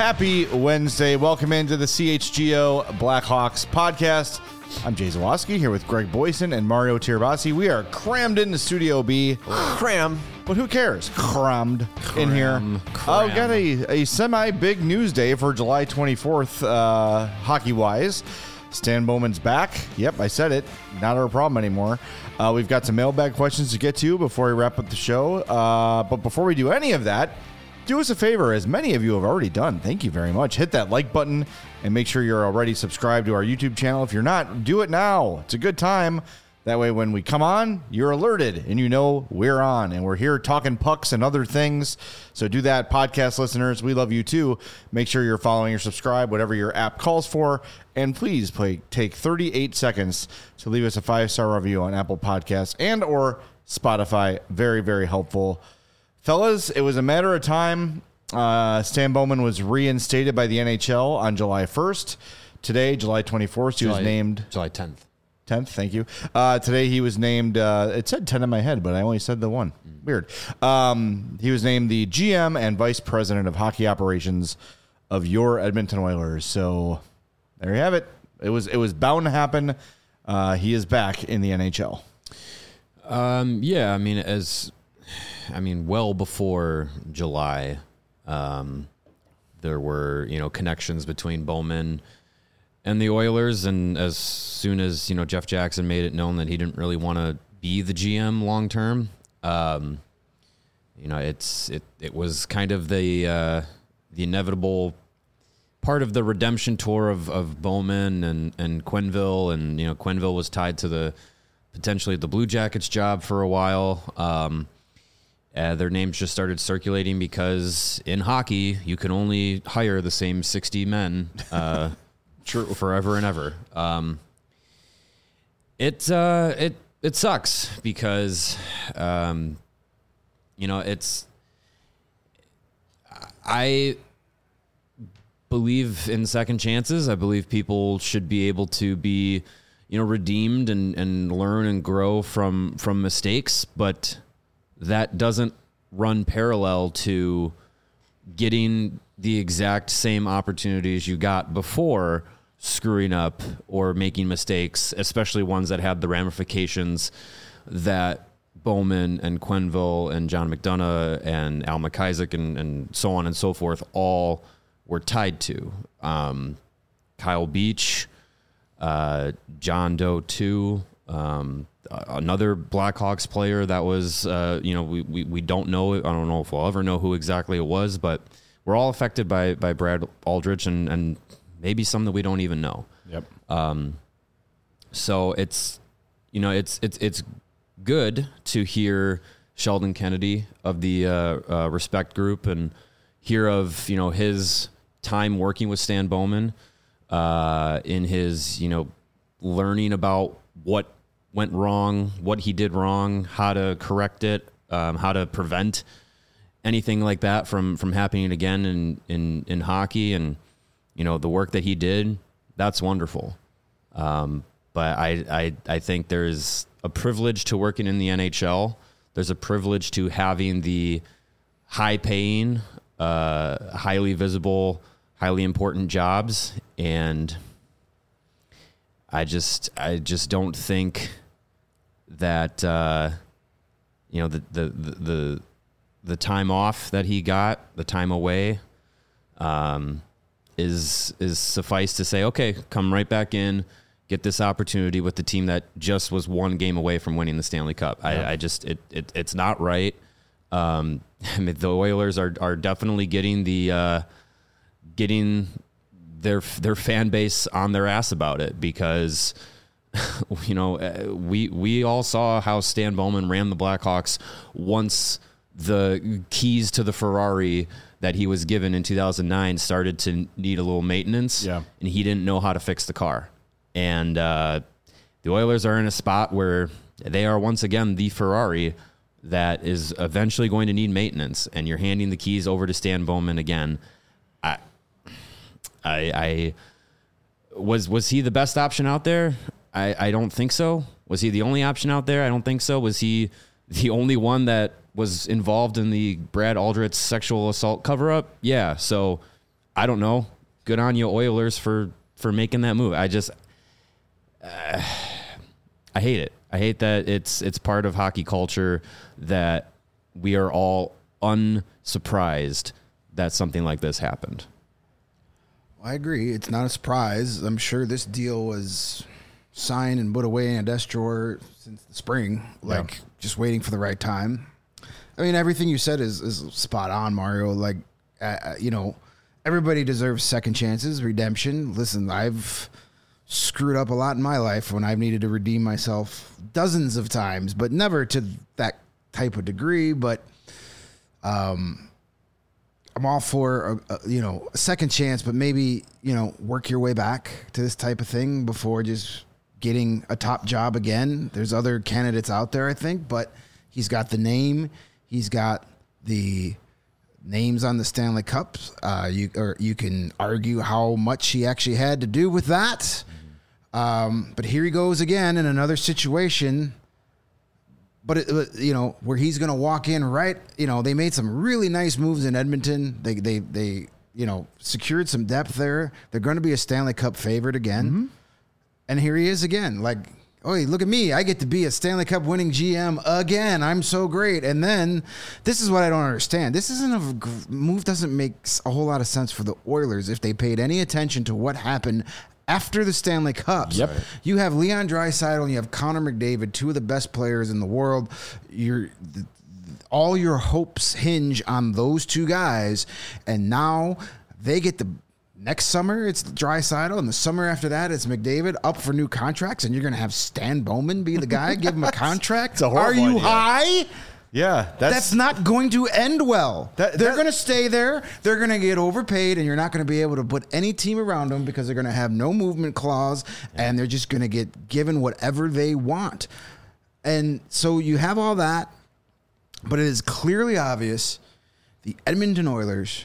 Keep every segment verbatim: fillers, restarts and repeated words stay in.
Happy Wednesday. Welcome into the C H G O Blackhawks podcast. I'm Jay Zawoski here with Greg Boyson and Mario Tirabassi. We are crammed into Studio B. Cram. But who cares? Crammed Cram, in here. cram. I've got a, a semi-big news day for July twenty-fourth, uh, hockey-wise. Stan Bowman's back. Yep, I said it. Not our problem anymore. Uh, we've got some mailbag questions to get to before we wrap up the show. Uh, but before we do any of that, do us a favor, as many of you have already done. Thank you very much. Hit that like button and make sure you're already subscribed to our YouTube channel. If you're not, do it now. It's a good time. That way, when we come on, you're alerted and you know we're on. And we're here talking pucks and other things. So do that, podcast listeners. We love you too. Make sure you're following or subscribe, whatever your app calls for. And please play, take thirty-eight seconds to leave us a five-star review on Apple Podcasts and or Spotify. Very, very helpful. Fellas, it was a matter of time. Uh, Stan Bowman was reinstated by the N H L on July first. Today, July twenty-fourth, he July, was named... July tenth. tenth, thank you. Uh, today he was named, uh, it said ten in my head, but I only said the one. Mm. Weird. Um, he was named the G M and Vice President of Hockey Operations of your Edmonton Oilers. So there you have it. It was it was bound to happen. Uh, he is back in the N H L. Um, yeah, I mean, as I mean, well before July, um, there were, you know, connections between Bowman and the Oilers, and as soon as, you know, Jeff Jackson made it known that he didn't really want to be the G M long term, um, you know, it's it it was kind of the uh, the inevitable part of the redemption tour of, of Bowman and and Quenneville, and you know, Quenneville was tied to the potentially the Blue Jackets job for a while. Um, uh, their names just started circulating because in hockey you can only hire the same sixty men. Uh, True. Forever and ever. Um, it uh, it it sucks because um, you know, it's I believe in second chances. I believe people should be able to be, you know, redeemed and, and learn and grow from from mistakes, but that doesn't run parallel to getting the exact same opportunities you got before screwing up or making mistakes, especially ones that had the ramifications that Bowman and Quenneville and John McDonough and Al McIsaac and, and so on and so forth all were tied to. Um, Kyle Beach, uh, John Doe too, um, another Blackhawks player that was, uh, you know, we, we, we don't know. I don't know if we'll ever know who exactly it was, but we're all affected by, by Brad Aldrich and, and maybe some that we don't even know. Yep. Um, so it's, you know, it's, it's, it's good to hear Sheldon Kennedy of the, uh, uh, Respect Group and hear of, you know, his time working with Stan Bowman, uh, in his, you know, learning about what went wrong, what he did wrong, how to correct it, um, how to prevent anything like that from, from happening again in, in, in hockey. And, you know, the work that he did, that's wonderful. Um, but I, I, I think there's a privilege to working in the N H L. There's a privilege to having the high paying, uh, highly visible, highly important jobs. And I just, I just don't think that, uh, you know, the, the, the, the, the time off that he got, the time away, um, is, is suffice to say, okay, come right back in, get this opportunity with the team that just was one game away from winning the Stanley Cup. Yeah. I, I just, it, it, it's not right. Um, I mean, the Oilers are, are definitely getting the, uh, getting their, their fan base on their ass about it because, you know, we, we all saw how Stan Bowman ran the Blackhawks once the keys to the Ferrari that he was given in two thousand nine started to need a little maintenance. Yeah. And he didn't know how to fix the car. And, uh, the Oilers are in a spot where they are once again the Ferrari that is eventually going to need maintenance, and you're handing the keys over to Stan Bowman again. I, I, I was, was he the best option out there? I, I don't think so. Was he the only option out there? I don't think so. Was he the only one that was involved in the Brad Aldrich sexual assault cover-up? Yeah. So I don't know. Good on you, Oilers, for, for making that move. I just, uh, I hate it. I hate that it's it's part of hockey culture that we are all unsurprised that something like this happened. I agree. It's not a surprise. I'm sure this deal was signed and put away in a desk drawer since the spring, like yeah. just waiting for the right time. I mean, everything you said is, is spot on, Mario. Like, uh, you know, everybody deserves second chances, redemption. Listen, I've screwed up a lot in my life when I've needed to redeem myself dozens of times, but never to that type of degree. But um, I'm all for, a, a, you know, a second chance, but maybe, you know, work your way back to this type of thing before just getting a top job again. There's other candidates out there, I think, but he's got the name. He's got the names on the Stanley Cups. Uh, you or you can argue how much he actually had to do with that. Um, but here he goes again in another situation. But it, you know, where he's going to walk in right. You know, they made some really nice moves in Edmonton. They they they you know secured some depth there. They're going to be a Stanley Cup favorite again. Mm-hmm. And here he is again. Like, oh, look at me. I get to be a Stanley Cup winning G M again. I'm so great. And then this is what I don't understand. This isn't a move doesn't make a whole lot of sense for the Oilers if they paid any attention to what happened after the Stanley Cups. Yep. You have Leon Draisaitl and you have Connor McDavid, two of the best players in the world. You're all your hopes hinge on those two guys. And now they get the next summer, it's Draisaitl, and the summer after that, it's McDavid up for new contracts, and you're going to have Stan Bowman be the guy, give him a contract. A Are you idea. high? Yeah, that's, that's not going to end well. That, they're that, going to stay there. They're going to get overpaid, and you're not going to be able to put any team around them because they're going to have no movement clause, yeah. and they're just going to get given whatever they want. And so you have all that, but it is clearly obvious the Edmonton Oilers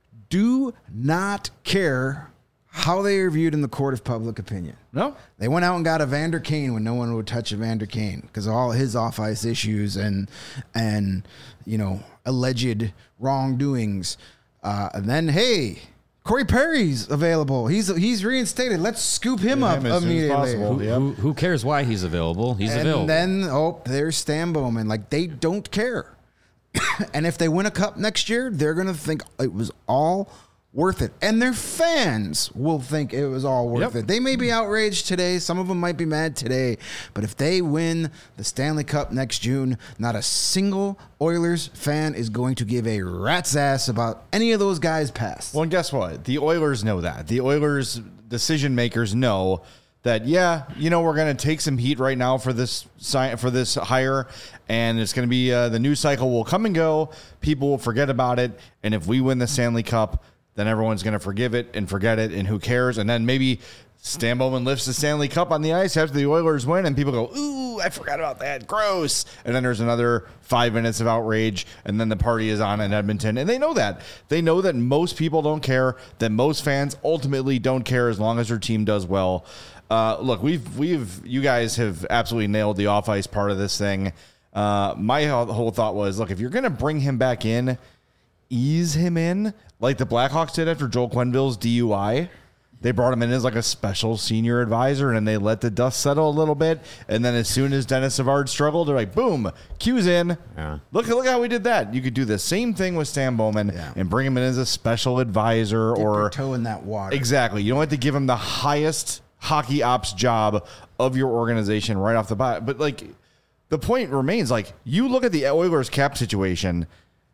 do not care how they are viewed in the court of public opinion. No. They went out and got Evander Kane when no one would touch Evander Kane because of all his off-ice issues and, and you know, alleged wrongdoings. Uh, and then, hey, Corey Perry's available. He's he's reinstated. Let's scoop him Get up him as soon as immediately. possible. Who, Yep. who, who cares why he's available? He's and available. then, oh, there's Stan Bowman. Like, they don't care. And if they win a cup next year, they're going to think it was all worth it. And their fans will think it was all worth Yep. it. They may be outraged today. Some of them might be mad today. But if they win the Stanley Cup next June, not a single Oilers fan is going to give a rat's ass about any of those guys' past. Well, and guess what? The Oilers know that. The Oilers decision makers know that, yeah, you know, we're going to take some heat right now for this sign for this hire, and it's going to be uh, the news cycle will come and go. People will forget about it, and if we win the Stanley Cup, then everyone's going to forgive it and forget it, and who cares? And then maybe Stan Bowman lifts the Stanley Cup on the ice after the Oilers win, and people go, ooh, I forgot about that. Gross. And then there's another five minutes of outrage, and then the party is on in Edmonton. And they know that. They know that most people don't care, that most fans ultimately don't care as long as their team does well. Uh, look, we've, we've, you guys have absolutely nailed the off-ice part of this thing. Uh, my whole thought was, look, if you're going to bring him back in, ease him in like the Blackhawks did after Joel Quenneville's D U I. They brought him in as like a special senior advisor, and they let the dust settle a little bit. And then as soon as Dennis Savard struggled, they're like, boom, Q's in. Yeah. Look, look how we did that. You could do the same thing with Stan Bowman Yeah. and bring him in as a special advisor. Dip or your toe in that water. Exactly. You don't have to give him the highest hockey ops job of your organization right off the bat. But like, the point remains, like, you look at the Oilers cap situation.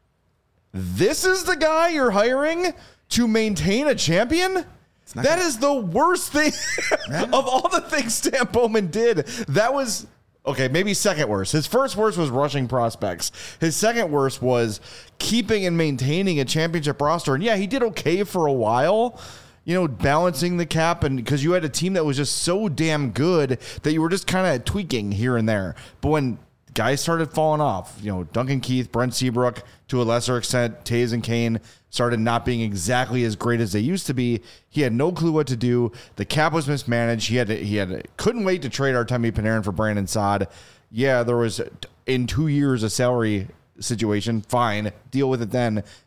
This is the guy you're hiring to maintain a champion? That is the worst thing of all the things Stan Bowman did. That was, okay, maybe second worst. His first worst was rushing prospects. His second worst was keeping and maintaining a championship roster. And yeah, he did okay for a while, you know, balancing the cap, and because you had a team that was just so damn good that you were just kind of tweaking here and there. But when guys started falling off, you know, Duncan Keith, Brent Seabrook, to a lesser extent, Taves and Kane started not being exactly as great as they used to be. He had no clue what to do. The cap was mismanaged. He had to, he had to, couldn't wait to trade Artemi Panarin for Brandon Saad. Yeah, there was in two years a salary situation. Fine, deal with it then.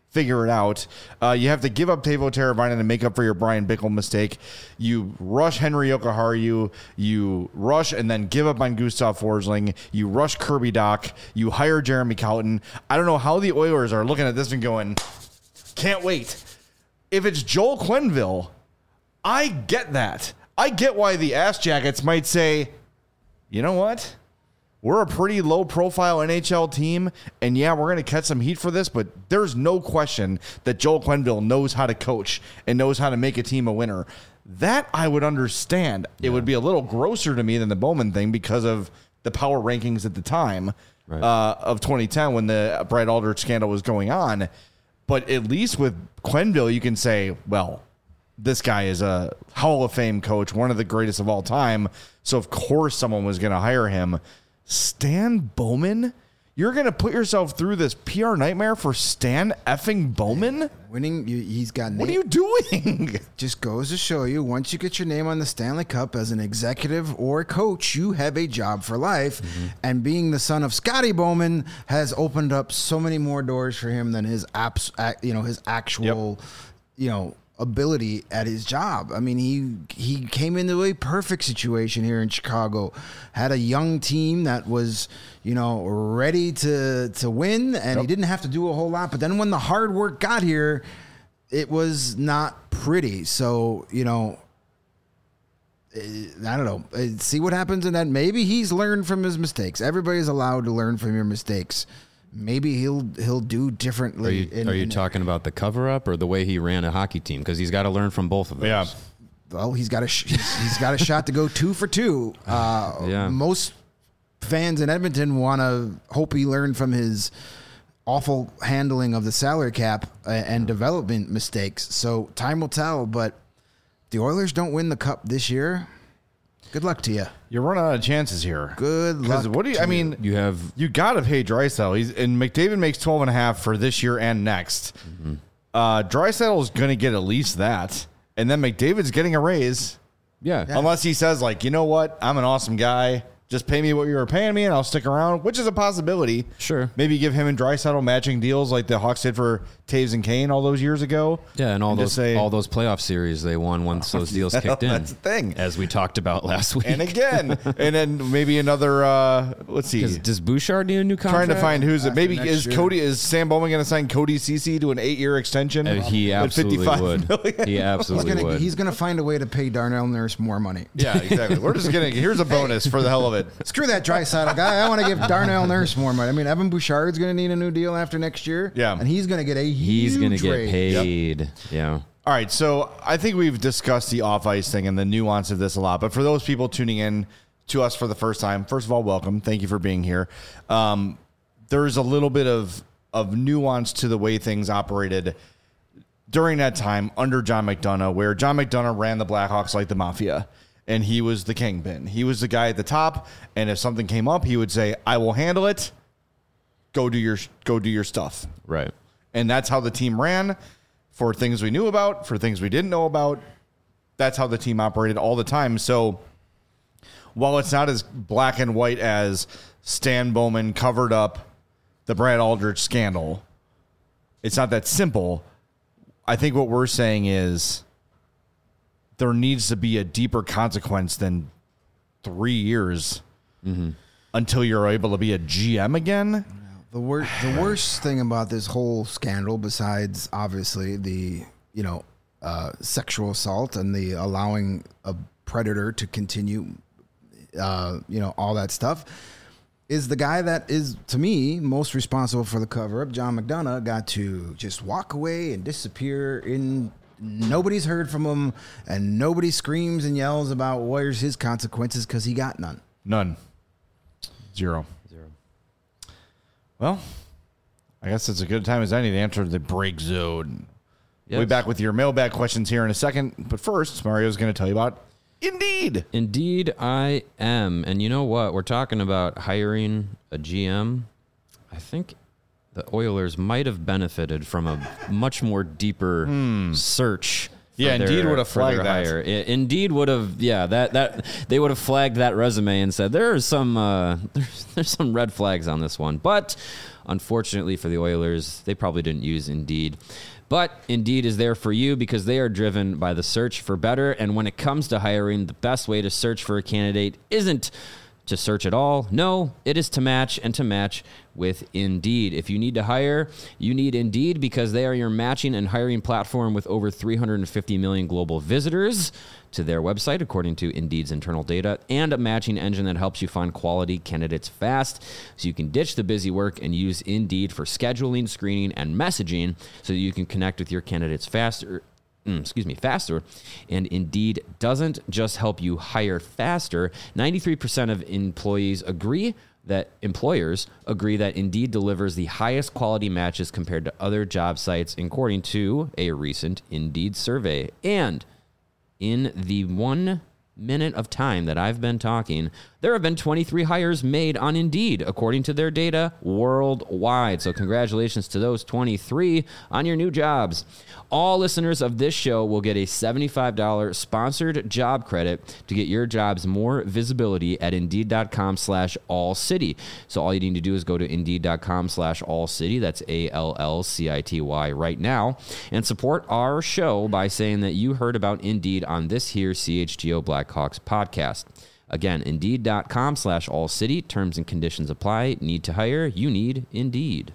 figure it out. Uh, you have to give up Teuvo Teravainen to make up for your Brian Bickle mistake. You rush Henry Jokiharju. You rush and then give up on Gustav Forsling. You rush Kirby Dach. You hire Jeremy Colliton. I don't know how the Oilers are looking at this and going, can't wait. If it's Joel Quenneville, I get that. I get why the Ass Jackets might say, you know what? We're a pretty low-profile N H L team, and yeah, we're going to catch some heat for this, but there's no question that Joel Quenneville knows how to coach and knows how to make a team a winner. That I would understand. Yeah. It would be a little grosser to me than the Bowman thing because of the power rankings at the time right. uh, of twenty ten when the Brad Aldrich scandal was going on. But at least with Quenneville, you can say, well, this guy is a Hall of Fame coach, one of the greatest of all time, so of course someone was going to hire him. Stan Bowman? You're going to put yourself through this P R nightmare for Stan effing Bowman? Winning, you, he's got. What are you doing? Just goes to show you, once you get your name on the Stanley Cup as an executive or coach, you have a job for life. Mm-hmm. And being the son of Scotty Bowman has opened up so many more doors for him than his apps, you know, his actual, yep. you know, ability at his job. I mean, he he came into a perfect situation here in Chicago, had a young team that was, you know, ready to to win, and yep. he didn't have to do a whole lot. But then when the hard work got here, it was not pretty. So, you know, I don't know. See what happens, and then maybe he's learned from his mistakes. Everybody's allowed to learn from your mistakes. Maybe he'll he'll do differently. Are you, in, are you in, talking about the cover-up or the way he ran a hockey team? Because he's got to learn from both of those. Yeah. Well, he's got a sh- he's, he's got a shot to go two for two. Uh, yeah. Most fans in Edmonton want to hope he learned from his awful handling of the salary cap and development mistakes. So time will tell. But the Oilers don't win the cup this year. Good luck to you. You're running out of chances here. Good luck. What do you? I mean, you have you got to pay Draisaitl. He's and McDavid makes twelve and a half for this year and next. Mm-hmm. Uh, Draisaitl is going to get at least that, and then McDavid's getting a raise. Yeah. yeah, unless he says like, you know what, I'm an awesome guy. Just pay me what you were paying me, and I'll stick around, which is a possibility. Sure. Maybe give him and Draisaitl matching deals like the Hawks did for Taves and Kane all those years ago. Yeah, and all and those say, all those playoff series they won once those deals kicked in. That's the thing. As we talked about last week. And again, and then maybe another, uh, let's see. Does, does Bouchard need a new contract? Trying to find who's it. Maybe is year. Cody, is Sam Bowman going to sign Cody Ceci to an eight-year extension? Uh, he absolutely would. Million? He absolutely he's gonna, would. He's going to find a way to pay Darnell Nurse more money. Yeah, exactly. We're just going to, here's a bonus for the hell of it. Screw that Draisaitl guy. I want to give Darnell Nurse more money. I mean, Evan Bouchard's going to need a new deal after next year. Yeah. And he's going to get a He's going to get paid. Yep. Yeah. All right. So I think we've discussed the off-ice thing and the nuance of this a lot. But for those people tuning in to us for the first time, first of all, welcome. Thank you for being here. Um, there's a little bit of, of nuance to the way things operated during that time under John McDonough, where John McDonough ran the Blackhawks like the mafia. And he was the kingpin. He was the guy at the top. And if something came up, he would say, I will handle it. Go do your go do your stuff. Right. And that's how the team ran for things we knew about, for things we didn't know about. That's how the team operated all the time. So while it's not as black and white as Stan Bowman covered up the Brad Aldrich scandal, it's not that simple. I think what we're saying is there needs to be a deeper consequence than three years mm-hmm. until you're able to be a G M again. The worst, the worst thing about this whole scandal, besides obviously the you know uh, sexual assault and the allowing a predator to continue, uh, you know, all that stuff, is the guy that is, to me, most responsible for the cover-up, John McDonough, got to just walk away and disappear in. Nobody's heard from him, and nobody screams and yells about where's his consequences because he got none. None. Zero. Zero. Well, I guess it's a good time as any to enter the break zone. Yes. We'll be back with your mailbag questions here in a second. But first, Mario's going to tell you about Indeed. Indeed, I am. And you know what? We're talking about hiring a G M. I think the Oilers might have benefited from a much more deeper mm. search Yeah, their- Indeed would have for their flagged that. hire. I- Indeed would have, yeah, that that they would have flagged that resume and said there are some uh, there's, there's some red flags on this one. But unfortunately for the Oilers, they probably didn't use Indeed. But Indeed is there for you because they are driven by the search for better. And when it comes to hiring, the best way to search for a candidate isn't to search at all. No, it is to match and to match with Indeed. If you need to hire, you need Indeed because they are your matching and hiring platform with over three hundred fifty million global visitors to their website, according to Indeed's internal data, and a matching engine that helps you find quality candidates fast so you can ditch the busy work and use Indeed for scheduling, screening, and messaging so that you can connect with your candidates faster. Excuse me, faster. And Indeed doesn't just help you hire faster. ninety-three percent of employees agree that employers agree that Indeed delivers the highest quality matches compared to other job sites, according to a recent Indeed survey. And in the one minute of time that I've been talking, there have been twenty-three hires made on Indeed, according to their data worldwide. So congratulations to those twenty-three on your new jobs. All listeners of this show will get a seventy-five dollars sponsored job credit to get your jobs more visibility at Indeed.com slash All City. So all you need to do is go to Indeed.com slash All City. That's A L L C I T Y right now. And support our show by saying that you heard about Indeed on this here C H G O Blackhawks podcast. Again, Indeed.com slash All City. Terms and conditions apply. Need to hire? You need Indeed.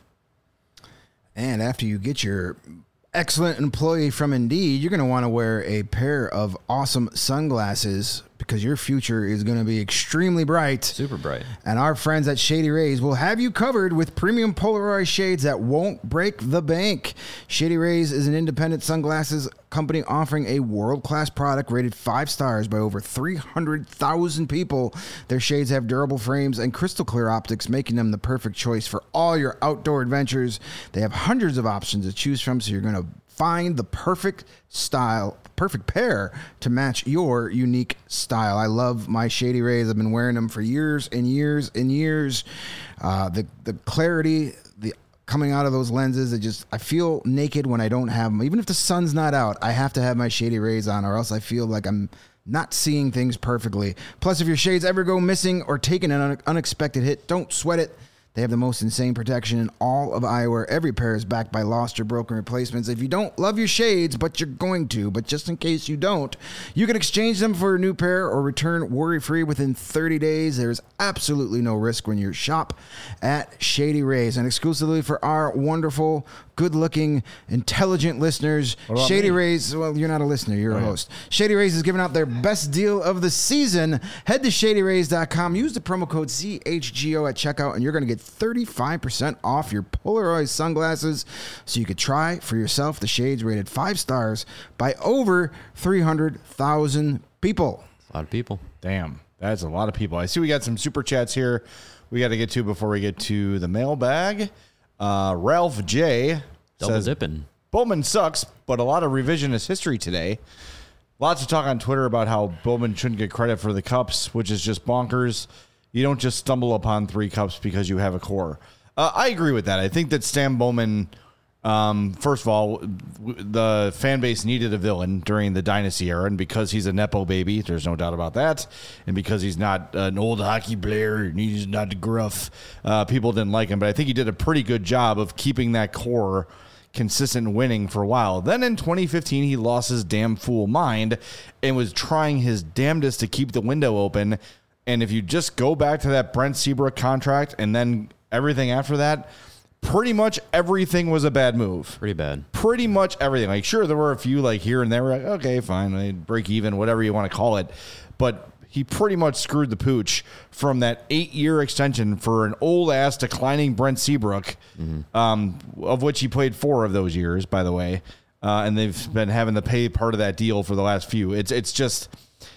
And after you get your excellent employee from Indeed, you're going to want to wear a pair of awesome sunglasses because your future is going to be extremely bright. Super bright. And our friends at Shady Rays will have you covered with premium Polaroid shades that won't break the bank. Shady Rays is an independent sunglasses company offering a world-class product rated five stars by over three hundred thousand people. Their shades have durable frames and crystal clear optics, making them the perfect choice for all your outdoor adventures. They have hundreds of options to choose from, so you're going to find the perfect style, perfect pair to match your unique style. I love my Shady Rays. I've been wearing them for years and years and years. Uh, the the clarity, the coming out of those lenses, it just, I feel naked when I don't have them. Even if the sun's not out, I have to have my Shady Rays on, or else I feel like I'm not seeing things perfectly. Plus, if your shades ever go missing or taking an un- unexpected hit, don't sweat it. They have the most insane protection in all of eyewear. Every pair is backed by lost or broken replacements. If you don't love your shades, but you're going to, but just in case you don't, you can exchange them for a new pair or return worry-free within thirty days. There's absolutely no risk when you shop at Shady Rays. And exclusively for our wonderful, good-looking, intelligent listeners, Shady me? Rays, well, you're not a listener, you're Oh, a yeah. host. Shady Rays is giving out their best deal of the season. Head to shady rays dot com. Use the promo code C H G O at checkout, and you're going to get thirty-five percent off your Polaroid sunglasses so you could try for yourself the shades rated five stars by over three hundred thousand people. A lot of people. Damn, that's a lot of people. I see we got some super chats here we got to get to before we get to the mailbag. Uh, Ralph J. Double says, dipping. Bowman sucks, but a lot of revisionist history today. Lots of talk on Twitter about how Bowman shouldn't get credit for the cups, which is just bonkers. You don't just stumble upon three cups because you have a core. Uh, I agree with that. I think that Stan Bowman, um, first of all, w- the fan base needed a villain during the dynasty era, and because he's a Nepo baby, there's no doubt about that, and because he's not an old hockey player and he's not gruff, uh, people didn't like him. But I think he did a pretty good job of keeping that core consistent winning for a while. Then in twenty fifteen, he lost his damn fool mind and was trying his damnedest to keep the window open. And if you just go back to that Brent Seabrook contract and then everything after that, pretty much everything was a bad move. Pretty bad. Pretty much everything. Like, sure, there were a few like here and there. Like, okay, fine, I break even, whatever you want to call it. But he pretty much screwed the pooch from that eight-year extension for an old-ass declining Brent Seabrook, mm-hmm. um, of which he played four of those years, by the way. Uh, and they've been having to pay part of that deal for the last few. It's it's just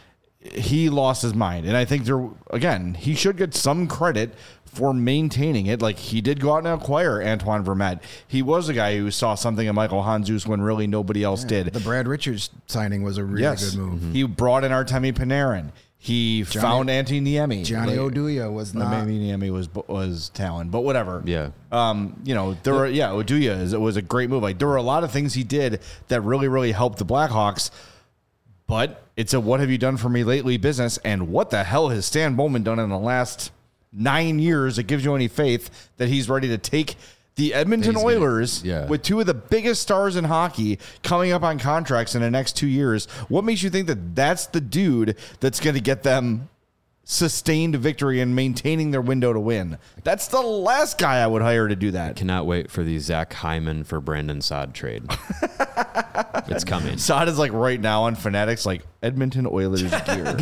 he lost his mind. And I think, there again, he should get some credit for maintaining it. Like, he did go out and acquire Antoine Vermette. He was a guy who saw something in Michael Handzus when really nobody else Yeah, did. the Brad Richards signing was a really Yes. good move. Mm-hmm. He brought in Artemi Panarin. He Johnny- found Antti Niemi. Johnny Like, Oduya was well, not. maybe Niemi was was Talon, but whatever. Yeah. Um, you know, there were yeah, Oduya is it was a great move. Like there were a lot of things he did that really, really helped the Blackhawks. But it's a what have you done for me lately business, and what the hell has Stan Bowman done in the last nine years that gives you any faith that he's ready to take the Edmonton He's gonna- Oilers yeah. with two of the biggest stars in hockey coming up on contracts in the next two years? What makes you think that that's the dude that's going to get them sustained victory and maintaining their window to win? That's the last guy I would hire to do that. Cannot wait for the Zach Hyman for Brandon Saad trade. It's coming. Saad is like right now on Fanatics, like Edmonton Oilers gear.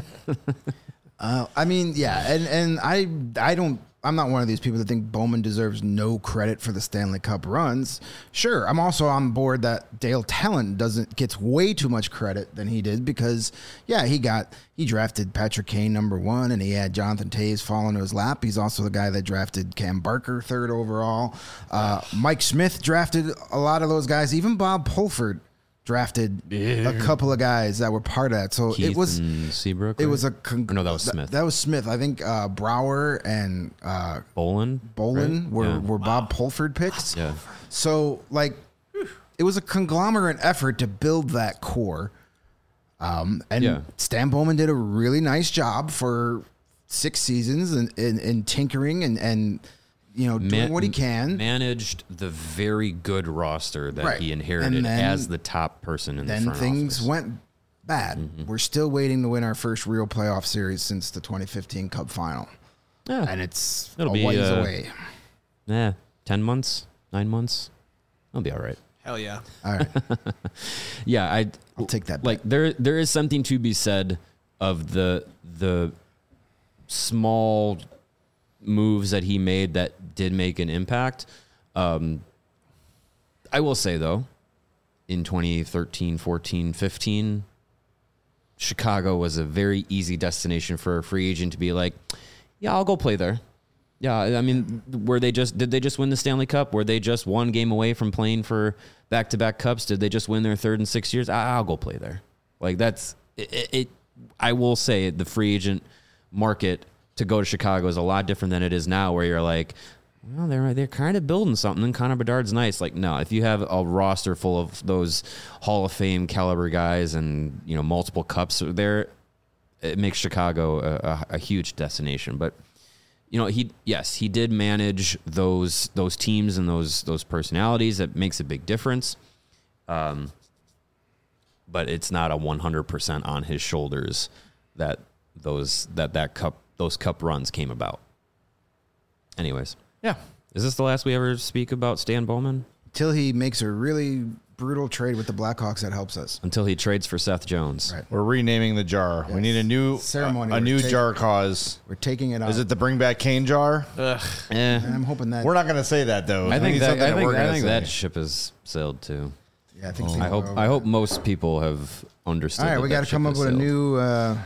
Uh, I mean, yeah, and and I I don't. I'm not one of these people that think Bowman deserves no credit for the Stanley Cup runs. Sure, I'm also on board that Dale Talent doesn't gets way too much credit than he did because, yeah, he got he drafted Patrick Kane number one, and he had Jonathan Toews fall into his lap. He's also the guy that drafted Cam Barker third overall. Uh, Mike Smith drafted a lot of those guys. Even Bob Pulford drafted a couple of guys that were part of that. So Keith it was and Seabrook. it right? was a con- Or no, that was th- Smith. That was Smith. I think uh, Brower and uh, Bolin. Bolin right? were, Yeah. were Bob Pulford picks. Yeah. So like, it was a conglomerate effort to build that core. Um, and Yeah. Stan Bowman did a really nice job for six seasons and in, in, in tinkering and and you know doing Man- what he can. Managed the very good roster that Right. he inherited And then- as the top person in the Then front things office. went bad. Mm-hmm. We're still waiting to win our first real playoff series since the twenty fifteen Cup final, Yeah. and it's It'll a be, ways uh, away. Yeah, ten months, nine months. I'll be all right. Hell yeah. All right, Yeah, I I'll take that. like there there is something to be said of the the small moves that he made that did make an impact. Um, I will say though, in twenty thirteen, fourteen, fifteen, Chicago was a very easy destination for a free agent to be like, yeah, I'll go play there. Yeah, I mean, were they just did they just win the Stanley Cup? Were they just one game away from playing for back-to-back cups? Did they just win their third in six years? I- I'll go play there. Like that's it, it, it. I will say the free agent market to go to Chicago is a lot different than it is now, where you're like, well, they're they're kind of building something. And Connor Bedard's nice. Like, no, if you have a roster full of those Hall of Fame caliber guys and you know multiple cups there, it makes Chicago a, a, a huge destination. But you know, he yes, he did manage those those teams and those those personalities. That makes a big difference. Um, but it's not a one hundred percent on his shoulders that those that that cup those cup runs came about. Anyways, Yeah. is this the last we ever speak about Stan Bowman? Till he makes a really brutal trade with the Blackhawks that helps us. Until he trades for Seth Jones. Right. We're renaming the jar. We Yes. need a new Ceremony. A, a We're new taking- jar cause. We're taking it off. Is it the Bring Back Kane jar? Eh, And I'm hoping that. We're not going to say that though. I think need that something I think, we're I gonna think say. that ship has sailed too. Yeah, I think. I people hope are over I hope that. most people have understood. All right, that we that got to come ship up has with a sailed. new, uh,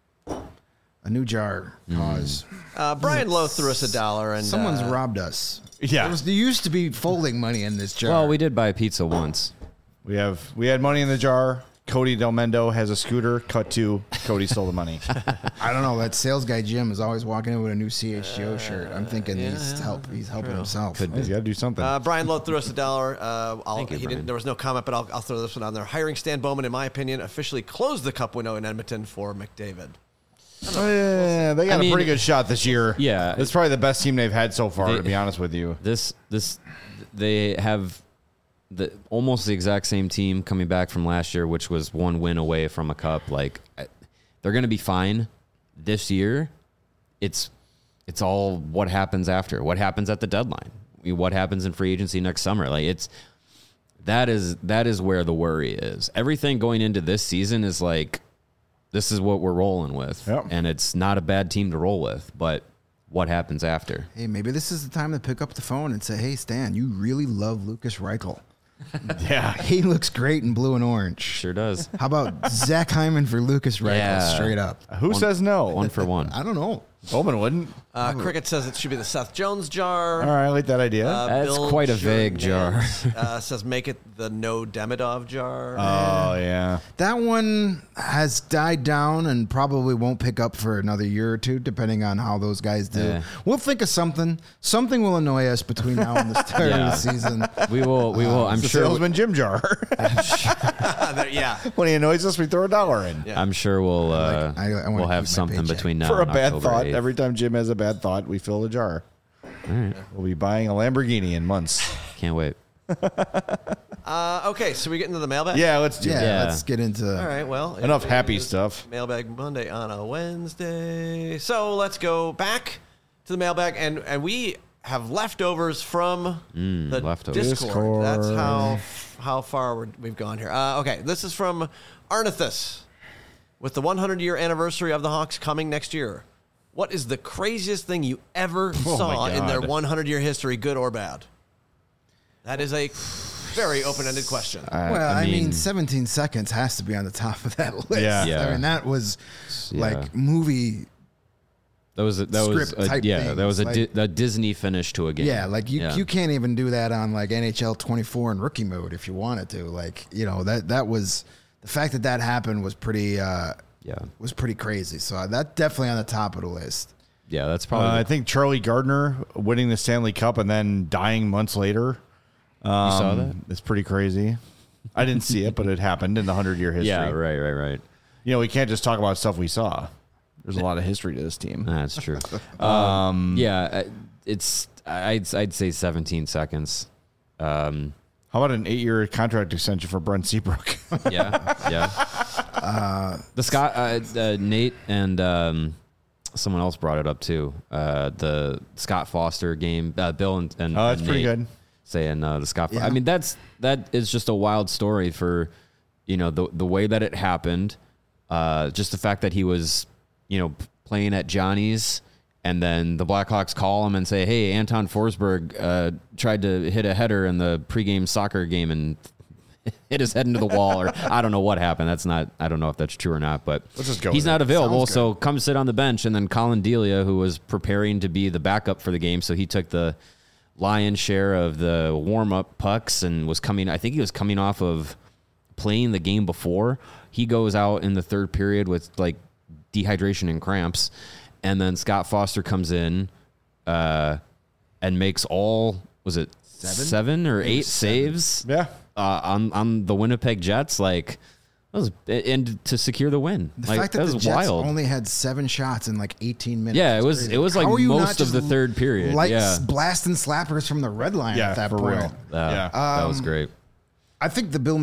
a new jar cause. Uh, Brian Lowe threw us a dollar, and Someone's uh, robbed us. Yeah. There, was, there used to be folding money in this jar. Well, we did buy a pizza once. We have we had money in the jar. Cody Del Mendo has a scooter. Cut to Cody stole the money. I don't know. That sales guy Jim is always walking in with a new C H G O shirt. I'm thinking yeah, he's yeah, help. He's helping himself. Could He's got to do something. Uh, Brian Lowe threw us a dollar. Uh, I'll, Thank you, he Brian. didn't, there was no comment, but I'll, I'll throw this one on there. Hiring Stan Bowman, in my opinion, officially closed the Cup window in Edmonton for McDavid. Oh, yeah, they got I a mean, pretty good shot this year. yeah. That's probably the best team they've had so far, They- to be honest with you. This this they have the almost the exact same team coming back from last year, which was one win away from a cup. Like I- they're going to be fine this year. It's it's all what happens after. What happens at the deadline? What happens in free agency next summer? Like it's that is that is where the worry is. Everything going into this season is like this is what we're rolling with, Yep. and it's not a bad team to roll with. But what happens after? Hey, maybe this is the time to pick up the phone and say, "Hey, Stan, you really love Lucas Reichel. Yeah. He looks great in blue and orange. Sure does. How about Zach Hyman for Lucas Reichel? Yeah. Straight up. Who One- says no? One for one. I don't know. Bowman wouldn't. Uh, Cricket says it should be the Seth Jones jar. All right, I like that idea. Uh, That's Bill quite a vague jar. Jernans, uh, says make it the no Demidov jar. oh, yeah. That one has died down and probably won't pick up for another year or two, depending on how those guys do. Yeah. We'll think of something. Something will annoy us between now and the start Yeah. of the season. We will. We will. I'm It's the sure. salesman Jim jar. There- yeah. When he annoys us, we throw a dollar in. Yeah. I'm sure we'll. Uh, I- I wanna we'll have keep my something paycheck. between now For a and bad October thought, eighth. every time Jim has a bad thought, we fill a jar. We'll be buying a Lamborghini in months. Can't wait. Uh, okay, so we get into the mailbag? Yeah, let's do Yeah, it. Yeah. let's get into. All right, well. it Enough happy is stuff. Mailbag Monday on a Wednesday. So let's go back to the mailbag, and, and we have leftovers from Mm, the leftovers. Discord. Discord. That's how how far we're, we've gone here. Uh, okay, this is from Arnithus. With the one hundred year anniversary of the Hawks coming next year, what is the craziest thing you ever Oh, saw my in their God. one hundred year history, good or bad? That is a very open-ended question. Well, I, I mean, mean- seventeen seconds has to be on the top of that list. Yeah. Yeah. I mean, that was Yeah. like movie. That was a, that was Script a, type yeah. That was a, things, Di- a Disney finish to a game. Yeah, like you, Yeah. you can't even do that on like N H L twenty-four and rookie mode if you wanted to. Like, you know, that that was the fact that that happened was pretty uh Yeah. was pretty crazy. So that definitely on the top of the list. Yeah. That's Uh, probably. I think Charlie Gardner winning the Stanley Cup and then dying months later. Um, you saw that? It's pretty crazy. I didn't see it, but it happened in the hundred-year history. Yeah. Right. Right. Right. You know, we can't just talk about stuff we saw. There's a lot of history to this team. That's true. um, yeah. uh, It's. I'd. I'd say seventeen seconds. Um, How about an eight-year contract extension for Brent Seabrook? yeah. Yeah. Uh, the Scott, uh, uh, Nate, and um, someone else brought it up too. Uh, the Scott Foster game. Uh, Bill and, and Oh, that's and pretty Nate good. Saying uh, the Scott. Yeah. I mean, that's that is just a wild story for, you know, the the way that it happened. Uh, just the fact that he was, you know, playing at Johnny's. And then the Blackhawks call him and say, "Hey, Anton Forsberg uh, tried to hit a header in the pregame soccer game and hit his head into the wall," or I don't know what happened. That's not. I don't know if that's true or not. But Let's just go he's with not it. available, Sounds so come sit on the bench. And then Colin Delia, who was preparing to be the backup for the game, so he took the lion's share of the warm up pucks and was coming. I think he was coming off of playing the game before. He goes out in the third period with like dehydration and cramps. And then Scott Foster comes in uh, and makes all, was it seven, seven or eight saves Yeah. uh, on on the Winnipeg Jets? Like, that was, and to secure the win. The like, fact that, that the was Jets wild. only had seven shots in like eighteen minutes. Yeah, it is was- crazy. it was like How are you not most of just the third period, Like yeah. blasting slappers from the red line Yeah, at that for point. real. Uh, Yeah. that was Um, great. I think the Bill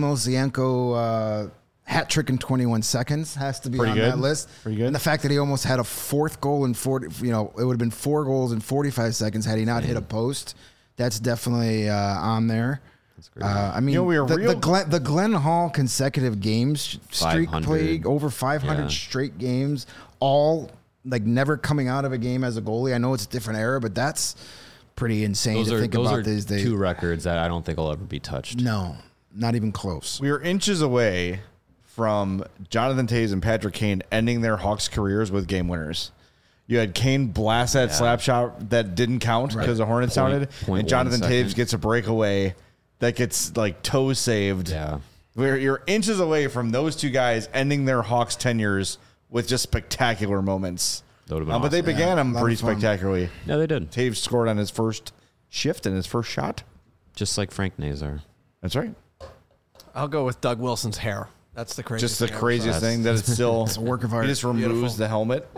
Mosienko uh, hat trick in twenty-one seconds has to be Pretty on good. that list. Pretty good. And the fact that he almost had a fourth goal in forty, you know, it would have been four goals in forty-five seconds had he not hit a post. That's definitely uh, on there. That's great. Uh, I mean, You know, we were the, real- the, Glenn, the Glenn Hall consecutive games streak five hundred. played over five hundred Yeah. straight games, all like never coming out of a game as a goalie. I know it's a different era, but that's pretty insane those to are, think those about are these days. two records that I don't think will ever be touched. No, not even close. We were inches away from Jonathan Toews and Patrick Kane ending their Hawks careers with game winners. You had Kane blast that Yeah. slap shot that didn't count because the Hornets Point- sounded, point and Jonathan one Toews second. gets a breakaway that gets like toe saved. Yeah. We're, you're inches away from those two guys ending their Hawks tenures with just spectacular moments. That would've been Uh, but they awesome. began Yeah, them a lot pretty of fun. spectacularly. Yeah, they did. Toews scored on his first shift and his first shot. Just like Frank Nazar. That's right. I'll go with Doug Wilson's hair. That's the craziest Just the thing I ever craziest saw. thing that it's still It's a work of art. He just removes Beautiful. the helmet.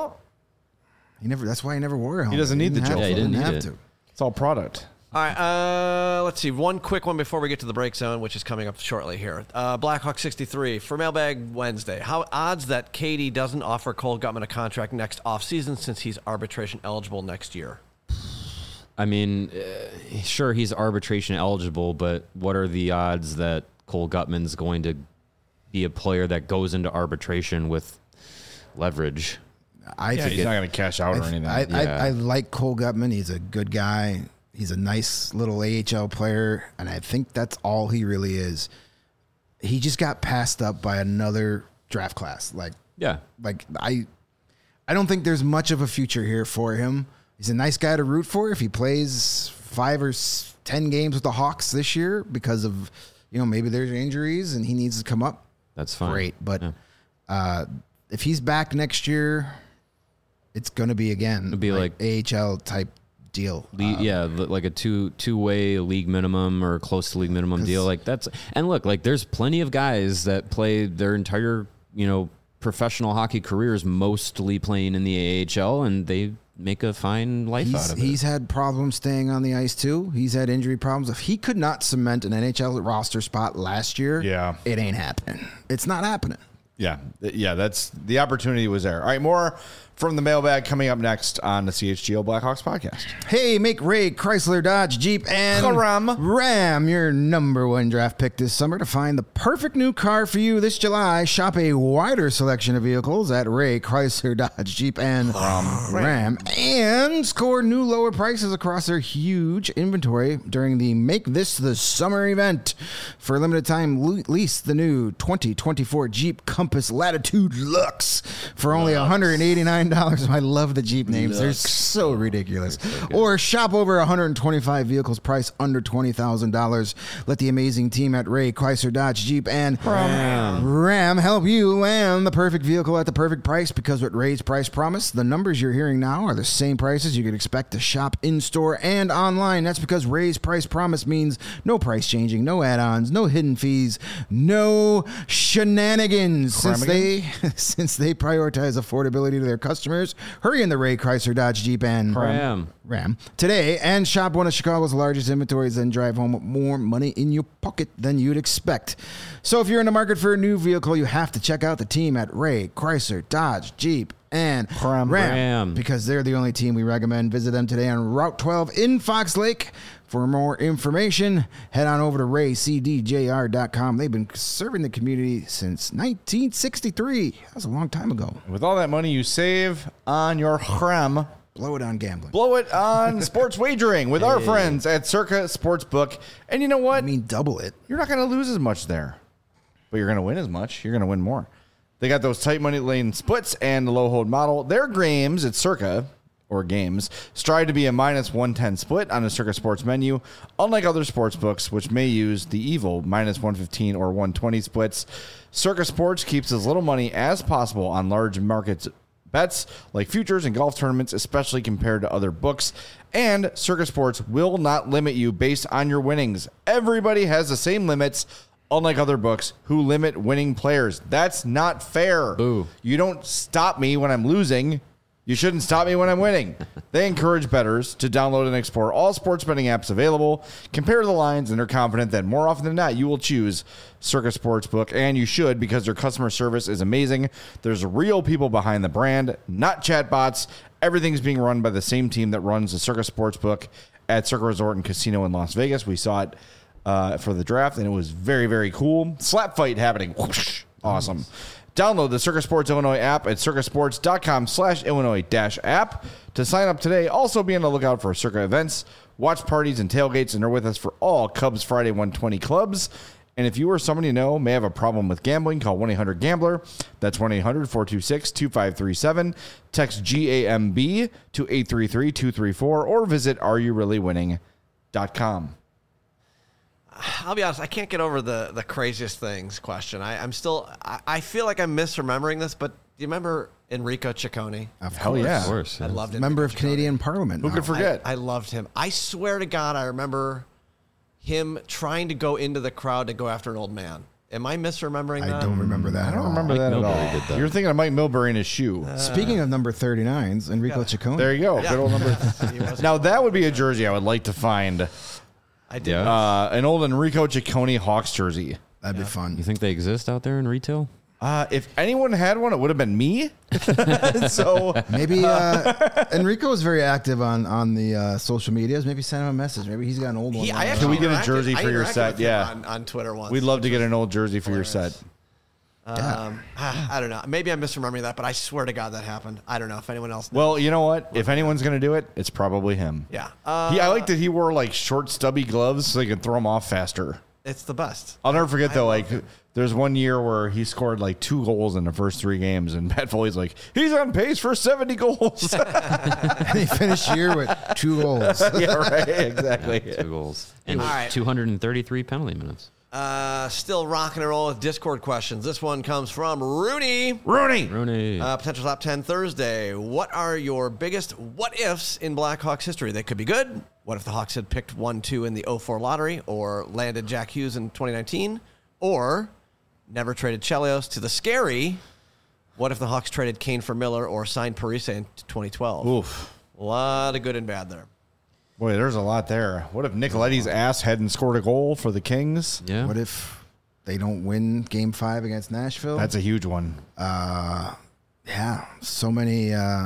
He never. That's why he never wore a helmet. doesn't need the have joke. to. Yeah, he didn't have need it. to. It's all product. All right, uh, let's see. One quick one before we get to the break zone, which is coming up shortly here. Uh, Blackhawk sixty-three for Mailbag Wednesday. How odds that Katie doesn't offer Cole Gutman a contract next offseason since he's arbitration eligible next year? I mean, uh, sure, he's arbitration eligible, but what are the odds that Cole Gutman's going to be a player that goes into arbitration with leverage? I Yeah, think he's it, not going to cash out or I, anything. I, Yeah. I, I like Cole Gutman. He's a good guy. He's a nice little A H L player, and I think that's all he really is. He just got passed up by another draft class. Like, Yeah. like I, I I don't think there's much of a future here for him. He's a nice guy to root for if he plays five or s- ten games with the Hawks this year because of, you know, maybe there's injuries and he needs to come up. That's fine. Great. But Yeah. uh, if he's back next year, it's going to be, again, It'd be like- A H L type deal. Le- Uh, yeah, li- like a two two way league minimum or close to league minimum deal. Like that's and look, like there's plenty of guys that play their entire you know professional hockey careers mostly playing in the A H L, and they make a fine life He's, out of it. he's had problems staying on the ice too. He's had injury problems. If he could not cement an N H L roster spot last year, Yeah. it ain't happening. It's not happening. Yeah, th- yeah, that's the opportunity was there. All right, more from the mailbag coming up next on the C H G O Blackhawks podcast. Hey, make Ray Chrysler, Dodge, Jeep, and Ram. Ram your number one draft pick this summer to find the perfect new car for you this July. Shop a wider selection of vehicles at Ray Chrysler, Dodge, Jeep, and Ram, and score new lower prices across their huge inventory during the Make This the Summer event. For a limited time, le- lease the new twenty twenty-four Jeep Compass Latitude Lux for only one hundred eighty-nine dollars. I love the Jeep names. They're so ridiculous. Or shop over one hundred twenty-five vehicles priced under twenty thousand dollars. Let the amazing team at Ray Chrysler, Dodge, Jeep, and Ram. Ram help you land the perfect vehicle at the perfect price, because with Ray's Price Promise, the numbers you're hearing now are the same prices you could expect to shop in-store and online. That's because Ray's Price Promise means no price changing, no add-ons, no hidden fees, no shenanigans. Since they, since they prioritize affordability to their customers, hurry in the Ray Chrysler, Dodge, Jeep, and Ram. Ram today and shop one of Chicago's largest inventories, then drive home with more money in your pocket than you'd expect. So if you're in the market for a new vehicle, you have to check out the team at Ray Chrysler, Dodge, Jeep, and Ram, Ram. because they're the only team we recommend. Visit them today on Route twelve in Fox Lake. For more information, head on over to ray c d j r dot com. They've been serving the community since nineteen sixty-three. That was a long time ago. With all that money you save on your Ram, Blow it on gambling. blow it on sports wagering with our friends at Circa Sportsbook. And you know what? I mean, double it. You're not going to lose as much there, but you're going to win as much. You're going to win more. They got those tight money lane splits and the low hold model. Their games at Circa, or games, strive to be a minus one ten split on the Circa Sports menu, unlike other sports books, which may use the evil minus one fifteen or one twenty splits. Circa Sports keeps as little money as possible on large markets bets like futures and golf tournaments, especially compared to other books. And Circa Sports will not limit you based on your winnings. Everybody has the same limits, unlike other books who limit winning players. That's not fair. Boo. You don't stop me when I'm losing. You shouldn't stop me when I'm winning. They encourage bettors to download and explore all sports betting apps available, compare the lines, and are confident that more often than not, you will choose Circa Sportsbook, and you should, because their customer service is amazing. There's real people behind the brand, not chatbots. Everything's being run by the same team that runs the Circa Sportsbook at Circa Resort and Casino in Las Vegas. We saw it uh, for the draft, and it was very, very cool. Slap fight happening. Whoosh. Awesome. Download the Circa Sports Illinois app at circasports.com slash Illinois dash app to sign up today. Also be on the lookout for Circa events, watch parties, and tailgates, and are with us for all Cubs Friday one twenty clubs. And if you or someone you know may have a problem with gambling, call one eight hundred gambler. That's one eight hundred four two six two five three seven. Text G A M B to eight three three two three four or visit are you really winning dot com. I'll be honest, I can't get over the, the craziest things question. I, I'm still, I, I feel like I'm misremembering this, but do you remember Enrico Ciccone? Of Hell course. yeah. Of course. I yeah. loved him. Member of Canadian Parliament. Who now. could forget? I, I loved him. I swear to God, I remember him trying to go into the crowd to go after an old man. Am I misremembering I that? don't remember that. I at don't all. remember Mike that Milbury at all. did that. You're thinking of Mike Milbury in his shoe. Speaking of number thirty-nines, Enrico Ciccone. There you go. Yeah. Good old number. He wasn't- Now, that would be a jersey I would like to find. I did. Yeah. Uh, an old Enrico Ciccone Hawks jersey. That'd be fun. You think they exist out there in retail? Uh, if anyone had one, it would have been me. so Maybe uh, Enrico is very active on on the uh, social medias. Maybe send him a message. Maybe he's got an old one. He, I lying actually Can we around. get a interacted- jersey I for your interacted set? with him Yeah. on, on Twitter once. we'd love to which get was an old jersey for your hilarious. set. Um, I don't know. Maybe I'm misremembering that, but I swear to God that happened. I don't know if anyone else knows. Well, you know what? If anyone's going to do it, it's probably him. Yeah. Uh, He, I like that he wore like short, stubby gloves so he could throw them off faster. It's the best. I'll never forget I though. love Like, him. there's one year where he scored like two goals in the first three games, and Matt Foley's like, he's on pace for seventy goals. And he finished the year with two goals. Yeah, right. Exactly. Two goals and All right. two hundred thirty-three penalty minutes. Uh, still rocking and rolling with Discord questions. This one comes from Rooney. Rooney. Rooney. Uh, potential top ten Thursday. What are your biggest what ifs in Blackhawks history? They could be good. What if the Hawks had picked one two in the oh four lottery, or landed Jack Hughes in twenty nineteen, or never traded Chelios to the scary? What if the Hawks traded Kane for Miller, or signed Parise in twenty twelve? Oof. A lot of good and bad there. Boy, there's a lot there. What if Nicoletti's ass hadn't scored a goal for the Kings? yeah. What if they don't win Game Five against Nashville? That's a huge one. Uh, yeah, so many, uh,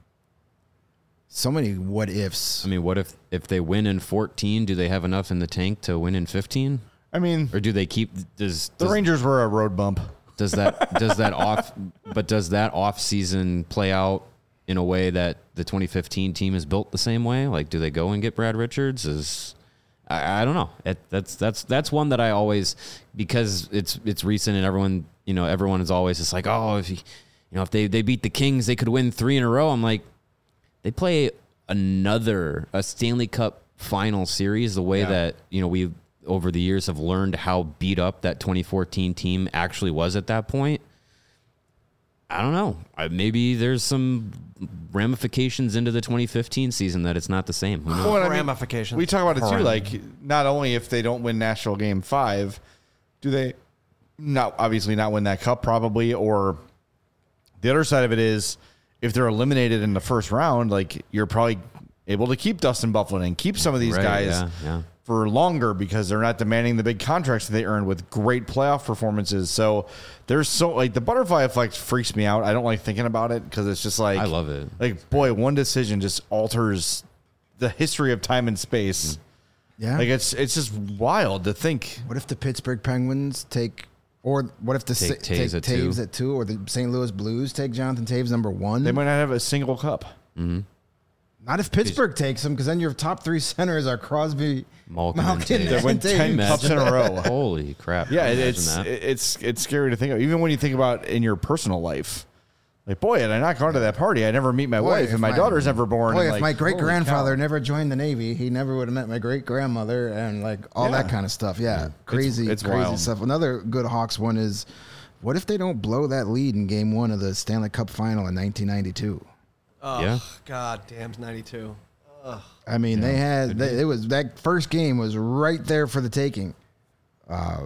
so many what ifs. I mean, what if if they win in fourteen? Do they have enough in the tank to win in fifteen? I mean, Or do they keep? Does the does, Rangers were a road bump. does that does that off? But does that off season play out in a way that the twenty fifteen team is built the same way? Like, do they go and get Brad Richards? Is I, I don't know. It, that's that's that's one that I always, because it's it's recent and everyone you know everyone is always just like, oh, if you, you know if they they beat the Kings, they could win three in a row. I'm like, they play another a Stanley Cup final series the way Yeah. that you know we over the years have learned how beat up that twenty fourteen team actually was at that point. I don't know. I, maybe there's some ramifications into the twenty fifteen season that it's not the same. Who knows? Well, and I mean, Ramifications. we talk about it too. Like, not only if they don't win Nashville Game Five, do they not obviously not win that cup probably, or the other side of it is if they're eliminated in the first round, like you're probably able to keep Dustin Byfuglien and keep some of these Right, guys yeah, yeah. for longer because they're not demanding the big contracts that they earned with great playoff performances. So there's so like the butterfly effect freaks me out. I don't like thinking about it because it's just like I love it. Like, boy, one decision just alters the history of time and space. Yeah. Like it's it's just wild to think. What if the Pittsburgh Penguins take, or what if the Take Sa- Taves take at Taves two? at two, or the Saint Louis Blues take Jonathan Taves number one? They might not have a single cup. Not if Pittsburgh takes them, because then your top three centers are Crosby, Malkin, Malkin, and They Taves. win and ten Taves. cups in a row. Holy crap! Yeah, Can you it, it's imagine that? it's it's scary to think of. Even when you think about in your personal life, like, boy, had I not gone to that party, I never meet my Boy, wife, if and my, my- daughter's never born. Boy, and if like, my great grandfather holy cow. never joined the Navy, he never would have met my great grandmother, and like all Yeah. that kind of stuff. Yeah, crazy, it's crazy wild. stuff. Another good Hawks one is, what if they don't blow that lead in Game One of the Stanley Cup Final in nineteen ninety-two? Oh, Yeah. God damn, ninety-two. I mean, they had they, it was that first game was right there for the taking, uh,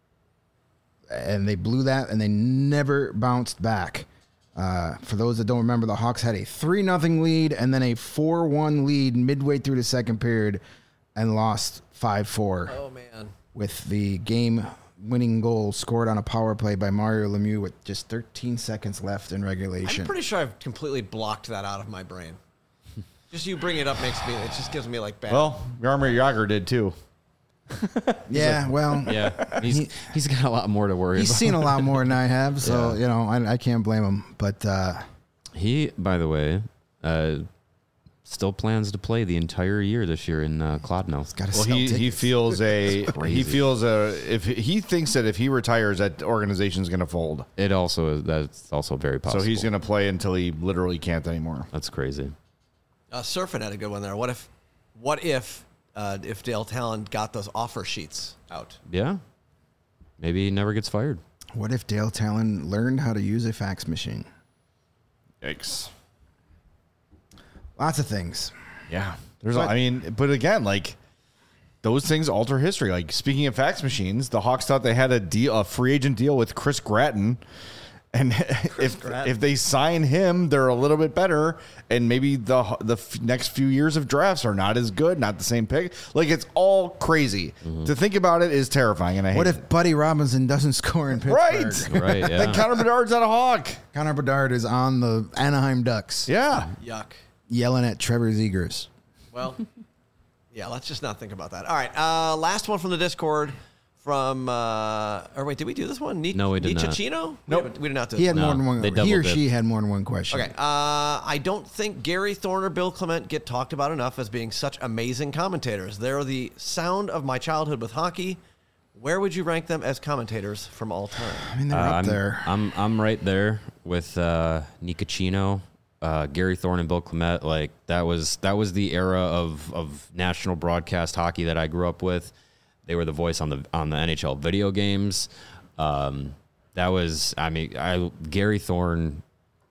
and they blew that, and they never bounced back. Uh, for those that don't remember, the Hawks had a three nothing lead and then a four one lead midway through the second period, and lost five four Oh, man. with the game winning goal scored on a power play by Mario Lemieux with just thirteen seconds left in regulation. I'm pretty sure I've completely blocked that out of my brain. Just you bring it up makes me, it just gives me like bad. Well, Jaromir Jagr did too. yeah, well, Yeah, he's he's got a lot more to worry he's about. seen a lot more than I have, so Yeah. you know I, I can't blame him. But uh, He, by the way, uh, still plans to play the entire year this year in uh, Clodno. got to Well, sell he, he tickets. feels a crazy. he feels a if he thinks that if he retires, that organization's going to fold. It also that's also very possible. So he's going to play until he literally can't anymore. That's crazy. Uh, Surfing had a good one there. What if, what if, uh, if Dale Talon got those offer sheets out? Yeah, maybe he never gets fired. What if Dale Talon learned how to use a fax machine? Yikes. Lots of things. Yeah. There's, But- I mean, but again, like those things alter history. Like speaking of fax machines, the Hawks thought they had a deal, a free agent deal with Chris Gratton, and if Gratton. if they sign him, they're a little bit better, and maybe the the f- next few years of drafts are not as good, not the same pick. Like it's all crazy. To think about it is terrifying, and I hate What if it. Buddy Robinson doesn't score in Pittsburgh? Right. Right? Yeah. Like Connor Bedard's not a Hawk. Connor Bedard is on the Anaheim Ducks, Yeah. Yuck. yelling at Trevor Zegers. Well, yeah, let's just not think about that. All right. Uh, last one from the Discord from, uh, or wait, did we do this one? Ni- No, we did not. Nichachino? Nope. We, haven't- we did not do He this had one. more than one. they He double or dipped. she had more than one question. Okay. Uh, I don't think Gary Thorne or Bill Clement get talked about enough as being such amazing commentators. They're the sound of my childhood with hockey. where would you rank them as commentators from all time? I mean, they're Uh, up I'm, there. I'm I'm right there with uh, Nicocino, uh, Gary Thorne, and Bill Clement. Like that was that was the era of of national broadcast hockey that I grew up with. They were the voice on the on the N H L video games. Um, that was I mean I Gary Thorne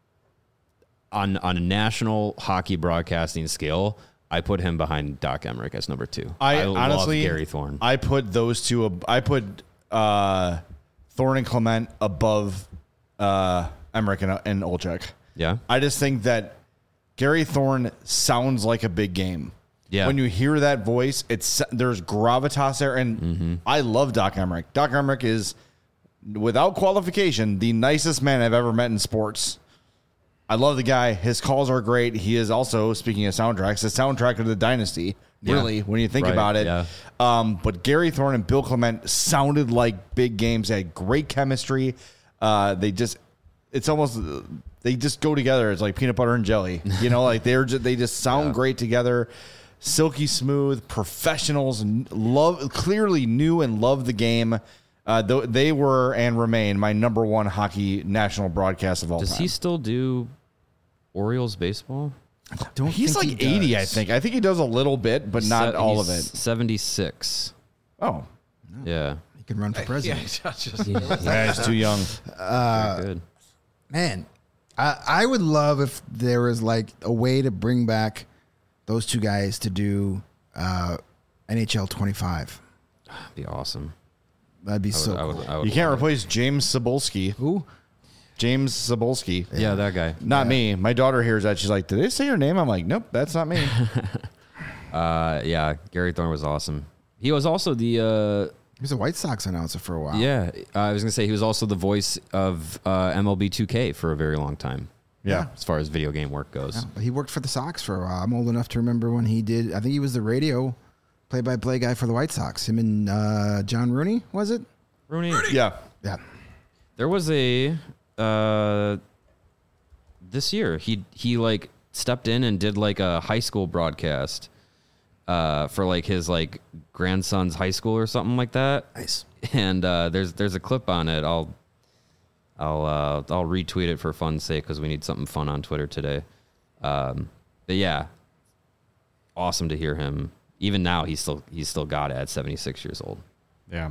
on on a national hockey broadcasting scale. I put him behind Doc Emmerich as number two. I, love honestly, Gary Thorne. I put those two. ab- I put uh, Thorne and Clement above uh, Emmerich and, and Olczyk. Yeah. I just think that Gary Thorne sounds like a big game. Yeah. When you hear that voice, it's there's gravitas there, and Mm-hmm. I love Doc Emmerich. Doc Emmerich is, without qualification, the nicest man I've ever met in sports. I love the guy. His calls are great. He is also, speaking of soundtracks, the soundtrack of the Dynasty, really, when you think Right, about it. yeah. Um, but Gary Thorne and Bill Clement sounded like big games. They had great chemistry. Uh, they just, it's almost, they just go together. It's like peanut butter and jelly. You know, like they're just, they just sound Yeah. great together. Silky smooth, professionals, and love, clearly knew and loved the game. Uh, th- they were and remain my number one hockey national broadcast of all Does time. he still do Orioles baseball? Don't He's think like he eighty, I does. think. I think he does a little bit, but not Se- all of he's it. seventy-six. Oh, Yeah. He can run for Yeah, president. just, yeah, he's too young. Very good. Man, I, I would love if there was like a way to bring back those two guys to do uh, N H L twenty-five. That'd be awesome. That'd be I would, so I would, cool. I would You can't love it. replace James Cebulski. Who? James Cebulski. Yeah, that guy. Not me. My daughter hears that. She's like, did they say your name? I'm like, nope, that's not me. Uh, yeah, Gary Thorne was awesome. He was also the uh, He was a White Sox announcer for a while. yeah. I was gonna say he was also the voice of uh, M L B two K for a very long time. Yeah. as far as video game work goes. Yeah, but he worked for the Sox for a while. I'm old enough to remember when he did. I think he was the radio play-by-play guy for the White Sox. Him and uh, John Rooney, was it? Rooney. Yeah. Yeah. There was a uh, this year he he like stepped in and did like a high school broadcast uh, for like his like grandson's high school or something like that. Nice. And uh, there's there's a clip on it. I'll I'll uh, I'll retweet it for fun's sake because we need something fun on Twitter today. Um, but yeah, awesome to hear him. Even now, he's still he's still got it at seventy-six years old. Yeah.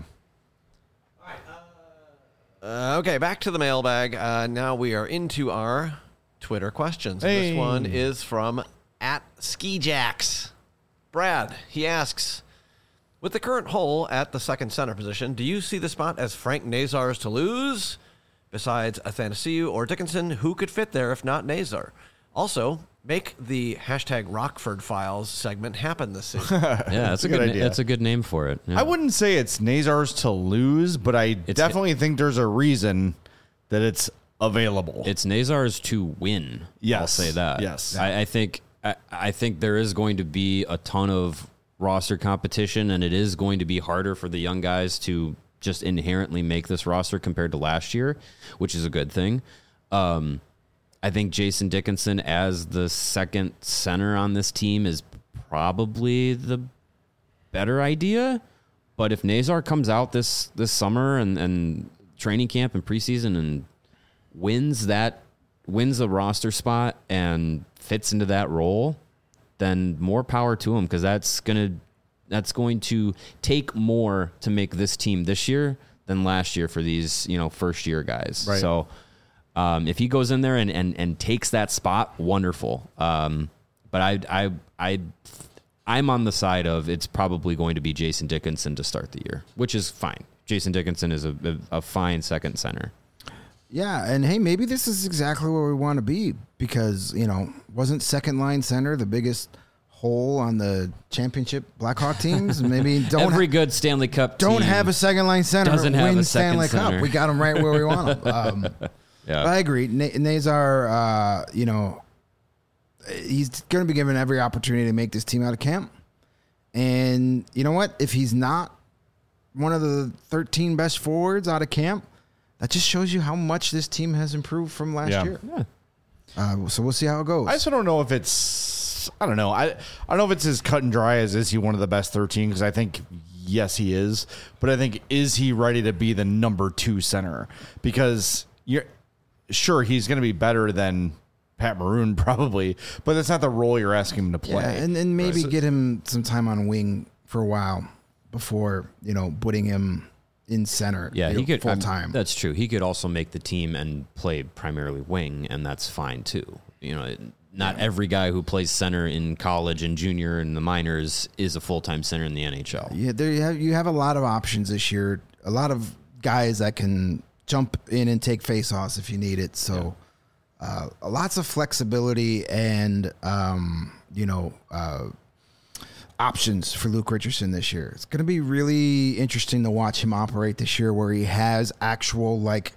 Uh, okay, back to the mailbag. Uh, now we are into our Twitter questions. And Hey. This one is from at Skijax. Brad, he asks, with the current hole at the second center position, do you see the spot as Frank Nazar's to lose? Besides Athanasiou or Dickinson, who could fit there if not Nazar? Also, make the hashtag Rockford Files segment happen this season. Yeah, that's a a good good, idea. na- that's a good name for it. Yeah. I wouldn't say it's Nazar's to lose, but I definitely think there's a reason that it's available. It's Nazar's to win. I'll Yes. say that. Yes. I, I think I, I think there is going to be a ton of roster competition, and it is going to be harder for the young guys to just inherently make this roster compared to last year, which is a good thing. Um, I think Jason Dickinson as the second center on this team is probably the better idea. But if Nazar comes out this this summer and, and training camp and preseason and wins that wins a roster spot and fits into that role, then more power to him, because that's gonna that's going to take more to make this team this year than last year for these, you know, first year guys. Right. So um, if he goes in there and, and, and takes that spot, wonderful. Um, but I I I I'm on the side of it's probably going to be Jason Dickinson to start the year, which is fine. Jason Dickinson is a, a, a fine second center. Yeah, and hey, maybe this is exactly where we want to be because, you know, wasn't second line center the biggest hole on the championship Blackhawk teams? Maybe don't Every ha- good Stanley Cup team don't have a second line center doesn't have win a second Stanley center. Cup. We got him right where we want him. Um, Yeah. But I agree. Na- Nazar, uh, you know, he's going to be given every opportunity to make this team out of camp. And you know what? If he's not one of the thirteen best forwards out of camp, that just shows you how much this team has improved from last Yeah. year. Yeah. Uh, so we'll see how it goes. I also don't know if it's. I don't know. I I don't know if it's as cut and dry as is he one of the best thirteen, because I think yes, he is. But I think, is he ready to be the number two center? Because you're sure he's going to be better than Pat Maroon probably, but that's not the role you're asking him to play. Yeah, and, and maybe Right. get him some time on wing for a while before, you know, putting him in center. Yeah, you he know, could full I'm- time. That's true. He could also make the team and play primarily wing, and that's fine too. You know, it- not every guy who plays center in college and junior and the minors is a full time center in the N H L. Yeah, there you have you have a lot of options this year. A lot of guys that can jump in and take faceoffs if you need it. So, uh, lots of flexibility and um, you know uh, options for Luke Richardson this year. It's going to be really interesting to watch him operate this year, where he has actual like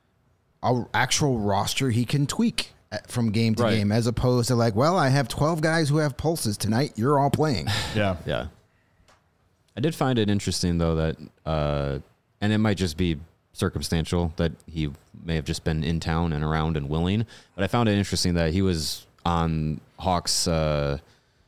a actual roster he can tweak from game to Right. game, as opposed to like, well, I have twelve guys who have pulses tonight. You're all playing. Yeah. Yeah. I did find it interesting though that, uh, and it might just be circumstantial that he may have just been in town and around and willing, but I found it interesting that he was on Hawks uh,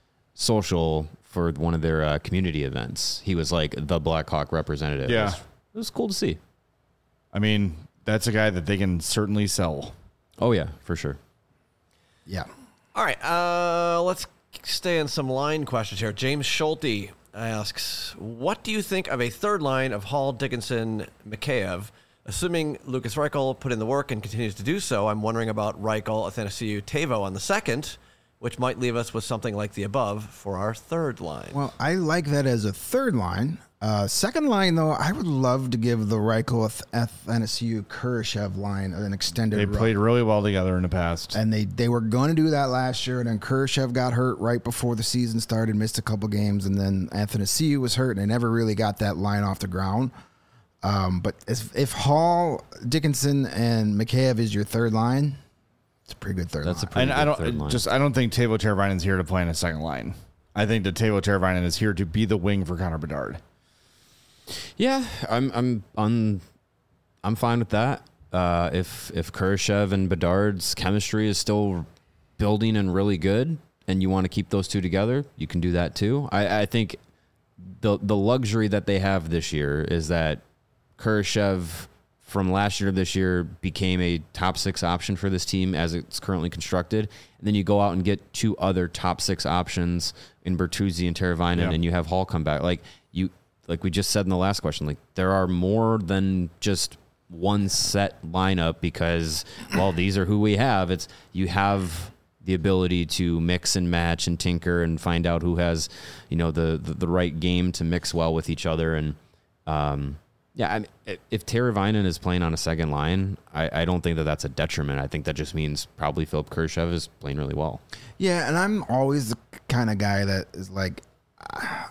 social for one of their uh, community events. He was like the Blackhawk representative. Yeah. It was, it was cool to see. I mean, that's a guy that they can certainly sell. Oh yeah, for sure. Yeah. All right, uh, let's stay in some line questions here. James Schulte asks, what do you think of a third line of Hall, Dickinson, Mikheyev? Assuming Lucas Reichel put in the work and continues to do so, I'm wondering about Reichel, Athanasiou, Tavo on the second, which might leave us with something like the above for our third line. Well, I like that as a third line. Uh, second line, though, I would love to give the Reichel, Athanasiou, Kurashev line an extended They run. played really well together in the past. And they, they were going to do that last year, and then Kurashev got hurt right before the season started, missed a couple games, and then Athanasiou was hurt, and they never really got that line off the ground. Um, but if, if Hall, Dickinson, and Mikheyev is your third line, it's a pretty good third That's a line. pretty and good I don't third line. just I don't think Teuvo Teravainen's here to play in a second line. I think that Teuvo Teravainen is here to be the wing for Connor Bedard. Yeah, I'm I'm I'm I'm fine with that. Uh, if if Kurashev and Bedard's chemistry is still building and really good, and you want to keep those two together, you can do that too. I, I think the the luxury that they have this year is that Kurashev from last year to this year became a top six option for this team as it's currently constructed. And then you go out and get two other top six options in Bertuzzi and Teravainen, Yeah. and you have Hall come back. Like you, like we just said in the last question, like there are more than just one set lineup because, well, these are who we have. It's you have the ability to mix and match and tinker and find out who has, you know, the the, the right game to mix well with each other. And um, yeah, I mean, if Teravainen is playing on a second line, I, I don't think that that's a detriment. I think that just means probably Philip Kurashev is playing really well. Yeah, and I'm always the kind of guy that is like, I,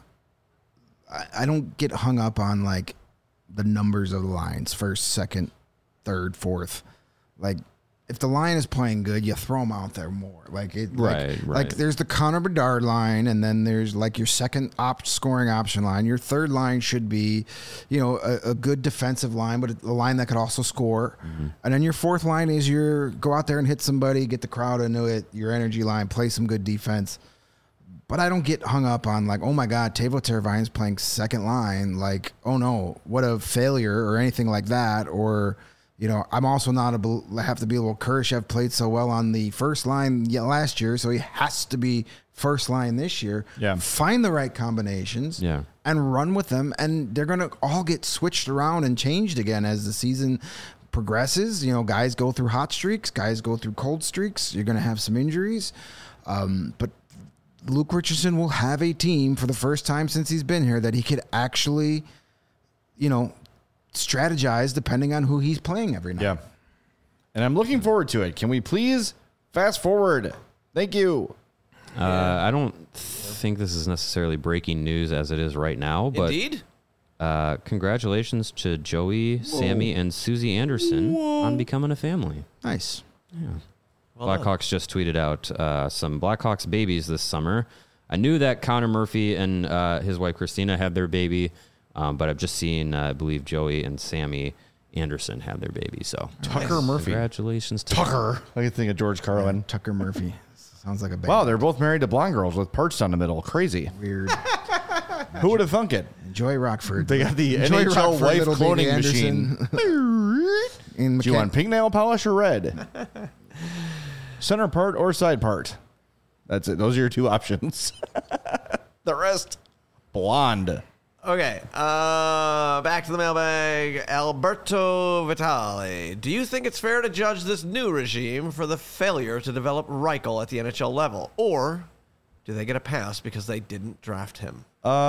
I don't get hung up on like the numbers of the lines, first, second, third, fourth. Like, if the line is playing good, you throw them out there more. Like it, Right, like, right. like there's the Connor Bedard line, and then there's like your second op scoring option line. Your third line should be, you know, a, a good defensive line, but a line that could also score. Mm-hmm. And then your fourth line is your go out there and hit somebody, get the crowd into it. Your energy line, play some good defense. But I don't get hung up on like, oh my God, Teuvo Teravainen's playing second line. Like, oh no, what a failure or anything like that. Or, you know, I'm also not a have to be well. Kurashev played so well on the first line last year, so he has to be first line this year. Yeah. Find the right combinations. Yeah. And run with them, and they're gonna all get switched around and changed again as the season progresses. You know, guys go through hot streaks, guys go through cold streaks. You're gonna have some injuries, um, but Luke Richardson will have a team for the first time since he's been here that he could actually, you know, strategize depending on who he's playing every night. Yeah. And I'm looking forward to it. Can we please fast forward? Thank you. Uh, I don't think this is necessarily breaking news as it is right now, but Indeed. uh, congratulations to Joey, Sammy, and Susie Anderson on becoming a family. Nice. Well done. Blackhawks just tweeted out uh, some Blackhawks babies this summer. I knew that Connor Murphy and uh, his wife Christina had their baby, um, but I've just seen, uh, I believe, Joey and Sammy Anderson had their baby. So Tucker Murphy. congratulations to them. Tucker. I can think of George Carlin. Tucker Murphy. Sounds like a bad Wow, they're both married to blonde girls with perched on the middle. Crazy. weird. Who would have thunk it? And Enjoy Rockford. They got the Enjoy N H L Rockford, wife little baby cloning machine. Anderson. In Do you McKen- want pink nail polish or red? Center part or side part? That's it. Those are your two options. The rest, blonde. Okay, uh, back to the mailbag. Alberto Vitale. Do you think it's fair to judge this new regime for the failure to develop Reichel at the N H L level? Or do they get a pass because they didn't draft him?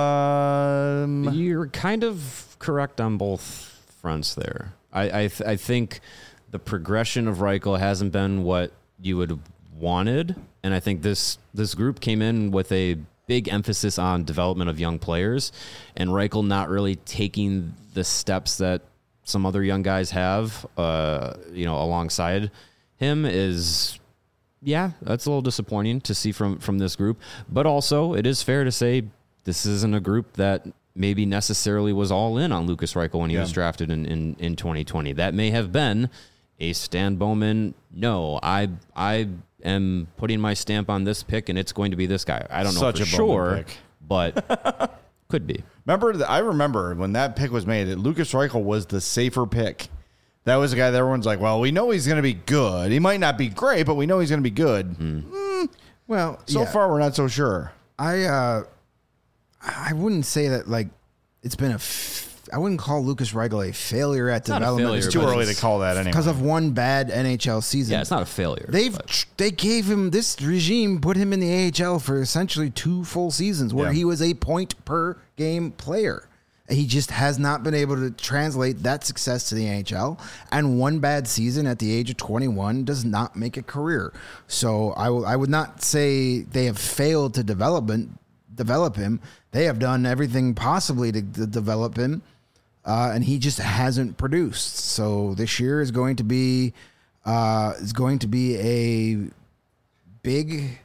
Um, You're kind of correct on both fronts there. I I, th- I think the progression of Reichel hasn't been what you would have wanted, and I think this this group came in with a big emphasis on development of young players, and Reichel not really taking the steps that some other young guys have, uh, you know, alongside him is, yeah, that's a little disappointing to see from, from this group. But also, it is fair to say this isn't a group that maybe necessarily was all in on Lucas Reichel when he Yeah. was drafted in, in, in twenty twenty. That may have been a Stan Bowman, no, I I am putting my stamp on this pick, and it's going to be this guy. I don't know Such for a Bowman sure, pick. but could be. Remember, the, I remember when that pick was made, that Lucas Reichel was the safer pick. That was the guy that everyone's like, well, we know he's going to be good. He might not be great, but we know he's going to be good. Mm, Well, so yeah. far, we're not so sure. I uh, I wouldn't say that like it's been a. F- I wouldn't call Lucas Reichel a failure at not a development. failure, It's too but early to it's- call that anyway. because of one bad N H L season. Yeah, it's not a failure. They've but- they gave him this regime put him in the A H L for essentially two full seasons where Yeah. he was a point per game player. He just has not been able to translate that success to the N H L, and one bad season at the age of twenty-one does not make a career. So I will I would not say they have failed to development develop him. They have done everything possibly to, to develop him. Uh, and he just hasn't produced. So this year is going to be uh, is going to be a big.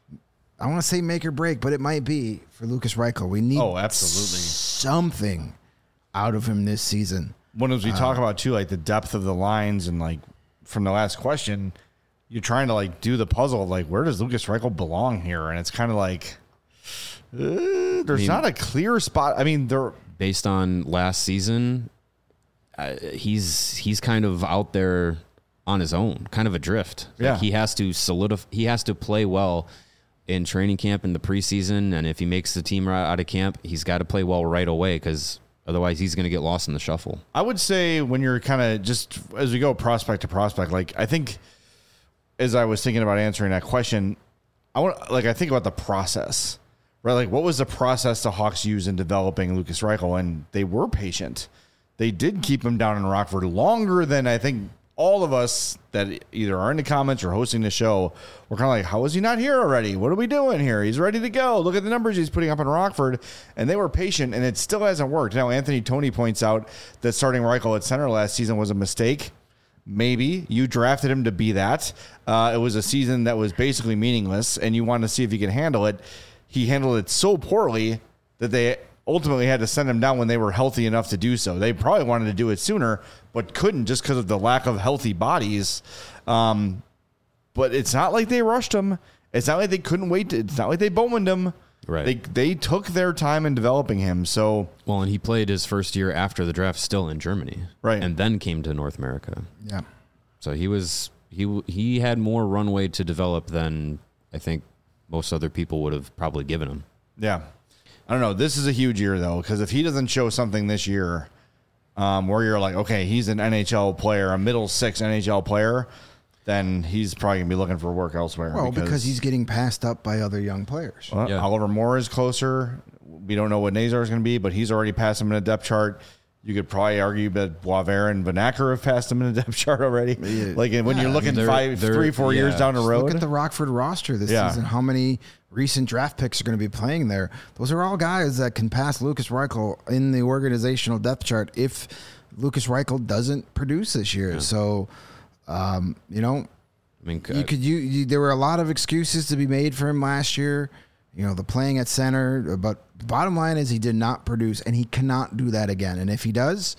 I want to say make or break, but it might be for Lucas Reichel. We need Oh, absolutely. something out of him this season. When as we talk about too, like the depth of the lines, and like from the last question, you're trying to like do the puzzle of like where does Lucas Reichel belong here, and it's kind of like uh, there's I mean- not a clear spot. I mean, there. based on last season, uh, he's he's kind of out there on his own, kind of adrift. Like Yeah. he has to solidify. He has to play well in training camp in the preseason, and if he makes the team right out of camp, he's got to play well right away because otherwise he's going to get lost in the shuffle. I would say when you're kind of just as we go prospect to prospect, like I think as I was thinking about answering that question, I want like I think about the process, right? Like what was the process the Hawks used in developing Lucas Reichel, and they were patient. They did keep him down in Rockford longer than I think all of us that either are in the comments or hosting the show were kind of like, how is he not here already? What are we doing here? He's ready to go. Look at the numbers he's putting up in Rockford. And they were patient, and it still hasn't worked. Now, Anthony Toney points out that starting Reichel at center last season was a mistake. Maybe. You drafted him to be that. Uh, it was a season that was basically meaningless, and you wanted to see if he could handle it. He handled it so poorly that they ultimately had to send him down when they were healthy enough to do so. They probably wanted to do it sooner, but couldn't just because of the lack of healthy bodies. Um, but it's not like they rushed him. It's not like they couldn't wait. To, it's not like they Bowmaned him. Right. They they took their time in developing him. So Well, and he played his first year after the draft still in Germany, Right. and then came to North America. Yeah. So he was he he had more runway to develop than I think most other people would have probably given him. yeah, I don't know. This is a huge year though, because if he doesn't show something this year, um, where you're like, okay, he's an N H L player, a middle six N H L player, then he's probably gonna be looking for work elsewhere. Well, because, he's getting passed up by other young players. Well, Yeah. Oliver Moore is closer. We don't know what Nazar is going to be, but he's already passed him in a depth chart. You could probably argue that Boisvert and Vanacker have passed him in a depth chart already. Like when you're looking they're- five, they're- three, four years yeah. down the road. Look at the Rockford roster this Yeah. season. How many recent draft picks are going to be playing there? Those are all guys that can pass Lucas Reichel in the organizational depth chart if Lucas Reichel doesn't produce this year. So, um, you know, I mean, you could you, you there were a lot of excuses to be made for him last year. You know, the playing at center, but the bottom line is he did not produce, and he cannot do that again. And if he does,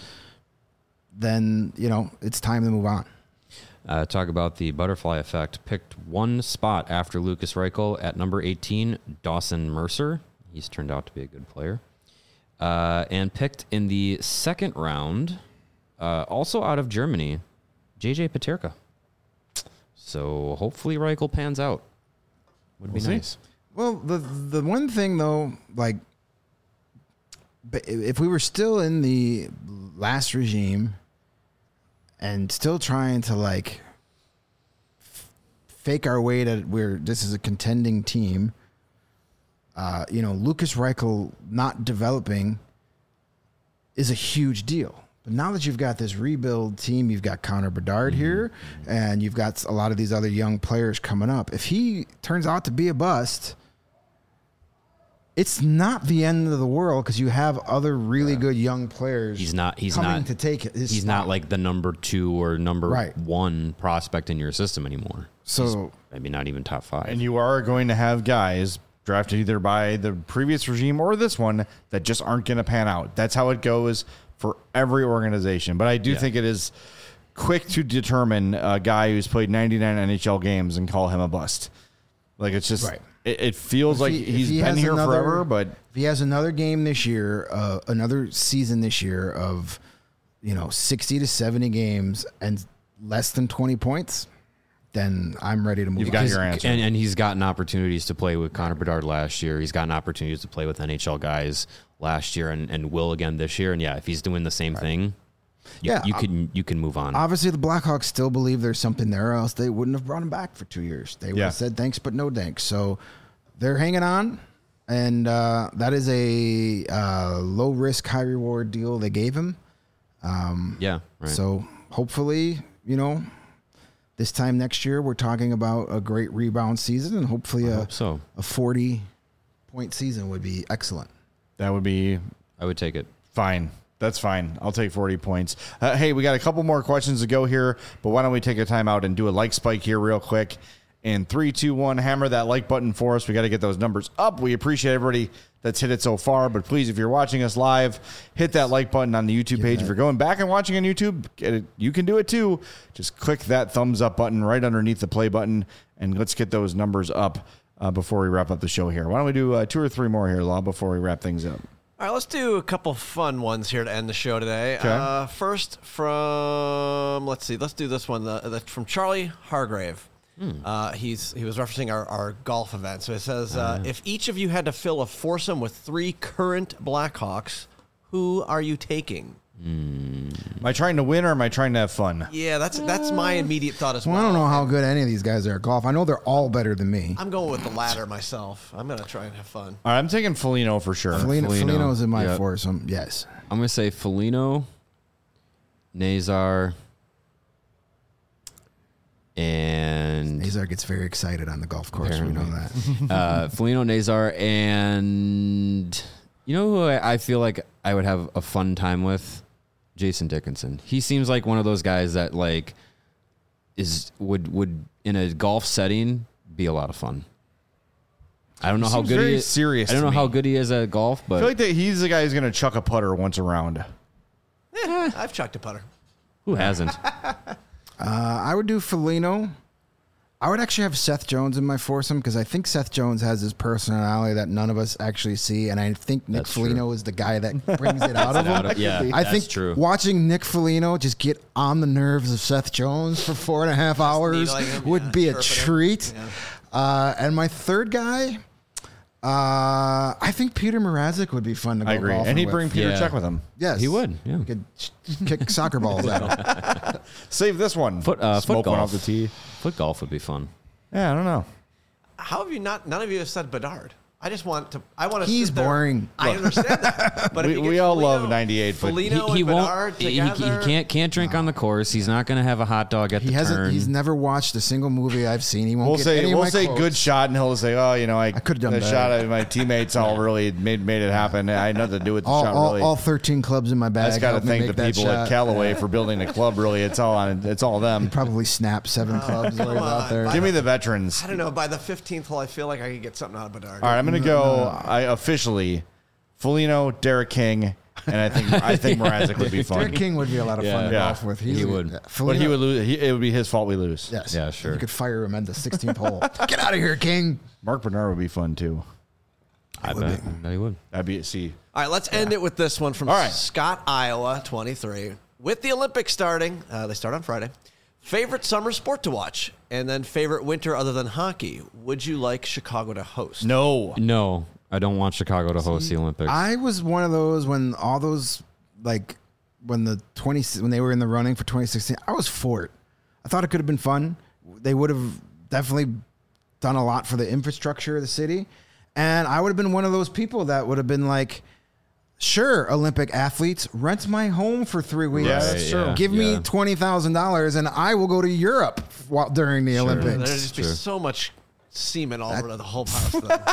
then you know it's time to move on. Uh, talk about the butterfly effect. Picked one spot after Lucas Reichel at number eighteen, Dawson Mercer. He's turned out to be a good player. Uh, and picked in the second round, uh, also out of Germany, J J Peterka. So hopefully Reichel pans out. Would be We'll see. nice. Well, the the one thing though, like, b- if we were still in the last regime and still trying to like f- fake our way to where this is a contending team, uh, you know, Lucas Reichel not developing is a huge deal. But now that you've got this rebuild team, you've got Connor Bedard Mm-hmm. here, and you've got a lot of these other young players coming up. If he turns out to be a bust, it's not the end of the world because you have other really good young players. He's not. He's coming not to take his He's spot. not like the number two or number Right. one prospect in your system anymore. So- He's maybe not even top five. And you are going to have guys drafted either by the previous regime or this one that just aren't going to pan out. That's how it goes for every organization. But I do Yeah. think it is quick to determine a guy who's played ninety-nine N H L games and call him a bust. Like, it's just, Right. it, it feels If like he- if he's he been has here another- forever, but if he has another game this year, uh, another season this year of, you know, sixty to seventy games and less than twenty points, then I'm ready to move You've on. got Because- your answer. And, and he's gotten opportunities to play with Connor Bedard last year. He's gotten opportunities to play with N H L guys last year and, and will again this year. And yeah, if he's doing the same thing, you, Yeah, you uh, can you can move on. Obviously, the Blackhawks still believe there's something there, or else they wouldn't have brought him back for two years. They would Yeah. have said thanks, but no thanks. So they're hanging on, and uh, that is a uh, low risk, high reward deal they gave him. yeah, right. So hopefully, you know, this time next year, we're talking about a great rebound season, and hopefully I a, hope so. a forty point season would be excellent. that would be I would take it. fine. That's fine. I'll take forty points. Uh, hey, we got a couple more questions to go here, but why don't we take a time out and do a like spike here real quick? And three, two, one, hammer that like button for us. We got to get those numbers up. We appreciate everybody that's hit it so far, but please, if you're watching us live, hit that like button on the YouTube page. If you're going back and watching on YouTube, get it, you can do it too. Just click that thumbs up button right underneath the play button, and let's get those numbers up uh, before we wrap up the show here. Why don't we do uh, two or three more here, Law, before we wrap things up? All right, let's do a couple fun ones here to end the show today. Okay. Uh, first from, let's see, let's do this one. The, the, from Charlie Hargrave. Uh, he's he was referencing our, our golf event. So it says, uh, if each of you had to fill a foursome with three current Blackhawks, who are you taking? Am I trying to win or am I trying to have fun? Yeah, that's that's my immediate thought as well. Well, I don't know how good any of these guys are at golf. I know they're all better than me. I'm going with the latter myself. I'm going to try and have fun. All right, I'm taking Foligno for sure. Felino, Foligno. Felino's in my Yep. foursome. Yes. I'm gonna say Foligno, Nazar, and Nazar gets very excited on the golf course. We know Apparently. that. uh, Foligno, Nazar, and you know who I, I feel like I would have a fun time with? Jason Dickinson. He seems like one of those guys that like is would would in a golf setting be a lot of fun. I don't know He how seems good very he is. serious I don't to know how me. good he is at golf, I but feel like that he's the guy who's going to chuck a putter once around. Eh, I've chucked a putter. who hasn't? Uh, I would do Felino. I would actually have Seth Jones in my foursome because I think Seth Jones has this personality that none of us actually see, and I think Nick That's Foligno true. is the guy that brings it out of him. Out of- yeah, I that's think true. watching Nick Foligno just get on the nerves of Seth Jones for four and a half hours needling him, would yeah, be a chirping him. treat. Yeah. Uh, and my third guy, uh, I think Peter Mrazek would be fun to go I agree. golfing And he'd with. bring Peter Yeah. Check with him. Yes, He would, yeah. Could ch- kick soccer balls at him. Save this one. Foot uh, foot Smoke one off golf. the tee. Foot golf would be fun. Yeah, I don't know. How have you not? None of you have said Bedard. I just want to. I want to. He's sit there. boring. I understand that, but if We- you get we all Foligno- love ninety-eight, but He, Foligno he and won't. Bedard He, he together. can't can't drink on the course. He's not going to have a hot dog at He the hasn't. turn. He's never watched a single movie I've seen. He won't We'll get say any we'll of my say quotes. good shot, and he'll say, "Oh, you know, I, I could've done the better." shot of my teammates all really made made it happen. I had nothing to do with the all, shot. all, Really, all thirteen clubs in my I bag. just got to helped me thank make the that people at shot. Callaway for building the club. Really, it's all on. It's all them. Probably snapped seven clubs while he's come out on. there. Give me the veterans. I don't know. By the fifteenth hole, I feel like I could get something out of Bedard. All right, I'm going to go. I officially, Foligno, Derek King, and I think I think Mrazek would be fun. Derek King would be a lot of fun to Yeah. golf with. He's He a- would. yeah, But Foligno- he would lose. He, it would be his fault we lose. Yes. Yeah, sure. You could fire him at the sixteenth hole. Get out of here, King. Mark Bernard would be fun too. I would bet. I bet he would. That'd be see. All right, let's end it with this one from All right. Scott, Iowa, twenty-three. With the Olympics starting, uh, they start on Friday. Favorite summer sport to watch, and then favorite winter other than hockey. Would you like Chicago to host? No. No, I don't want Chicago to host the Olympics. I was one of those when all those like when the twenty when they were in the running for twenty sixteen. I was for it. I thought it could have been fun. They would have definitely done a lot for the infrastructure of the city, and I would have been one of those people that would have been like, sure, Olympic athletes, rent my home for three weeks. Yeah, that's true. yeah, Give me yeah. twenty thousand dollars, and I will go to Europe while, during the There'd Olympics. just be Sure. so much semen all over the whole house.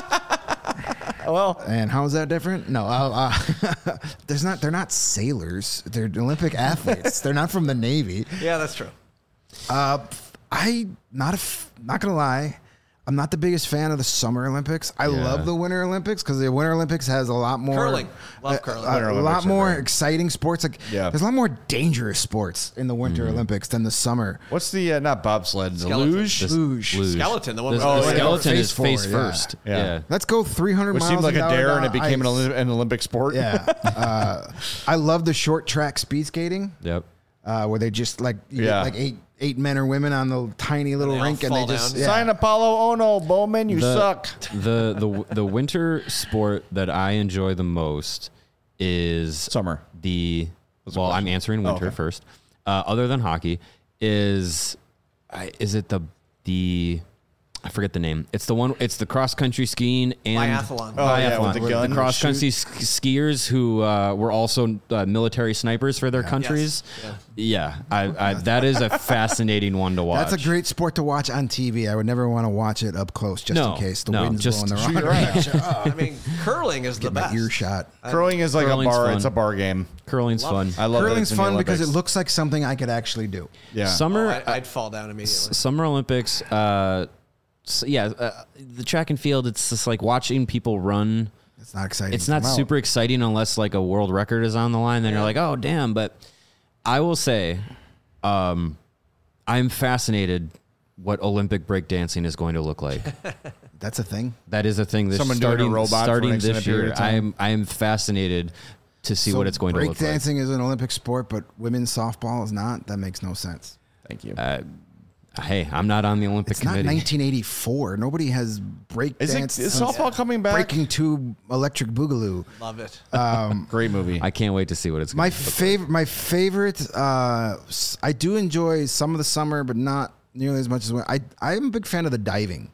Then. Well, And how is that different? No, uh, uh, there's not. They're not sailors. They're Olympic athletes. They're not from the Navy. Yeah, that's true. Uh, I not a f- not gonna lie. I'm not the biggest fan of the Summer Olympics. I Yeah. love the Winter Olympics because the Winter Olympics has a lot more Curling. Love uh, curling. uh, Winter a Olympics lot are more great. exciting sports. Like Yeah. there's a lot more dangerous sports in the Winter Mm-hmm. Olympics than the summer. what's the uh, not bobsled? The Skeleton. luge, This- Luge. luge. Skeleton, the one The, with the Oh, yeah. skeleton Face is face forward, yeah. first. Yeah. Yeah. Let's go three hundred which miles. seemed like a an hour dare, and it down became an, ice. Olymp- an Olympic sport. Yeah. uh, I love the short track speed skating. Yep. Uh, where they just like you Yeah. get like eight eight men or women on the tiny little they all rink and they fall just down. yeah. Sign Apollo. Oh no, Bowman, you The- suck. the the the winter sport that I enjoy the most is Summer. The the well, I'm question. answering Oh, winter okay. first. Uh, other than hockey, is I, is it the the I forget the name. It's the one. It's the cross country skiing and Biathlon. Oh, yeah, with biathlon. the gun cross shoot. country sk- skiers who uh, were also uh, military snipers for their countries. Yes. Yeah, I, I, that is a fascinating one to watch. That's a great sport to watch on T V. I would never want to watch it up close just No, in case the no, wind's just blowing the shoot wrong your direction. I mean, curling is the Get my best. earshot. Curling is like a Curling's bar. fun. It's a bar game. Curling's Love fun. it. I love that Curling's it's in the fun because it Olympics. looks like something I could actually do. Yeah. Summer, Oh, I, I'd fall down immediately. Summer Olympics, uh, s yeah, uh, the track and field. It's just like watching people run. It's not exciting. It's to not come out. super exciting unless like a world record is on the line. Then you're like, oh damn! But I will say, um, I'm fascinated what Olympic breakdancing is going to look like. That's a thing. That is a thing. This Someone doing a starting robot for an starting extended this period year. of time. I am I am fascinated to see So what it's going to look like. Breakdancing is an Olympic sport, but women's softball is not. That makes no sense. Thank you. Uh, hey, I'm not on the Olympic It's not committee. nineteen eighty-four. Nobody has breakdance. Is, it, is since softball coming back? Breaking Tube Electric Boogaloo. Love it. Great movie. I can't wait to see what it's. My gonna look like. favorite, my favorite. Uh, s- I do enjoy some of the summer, but not nearly as much as when I. I'm a big fan of the diving.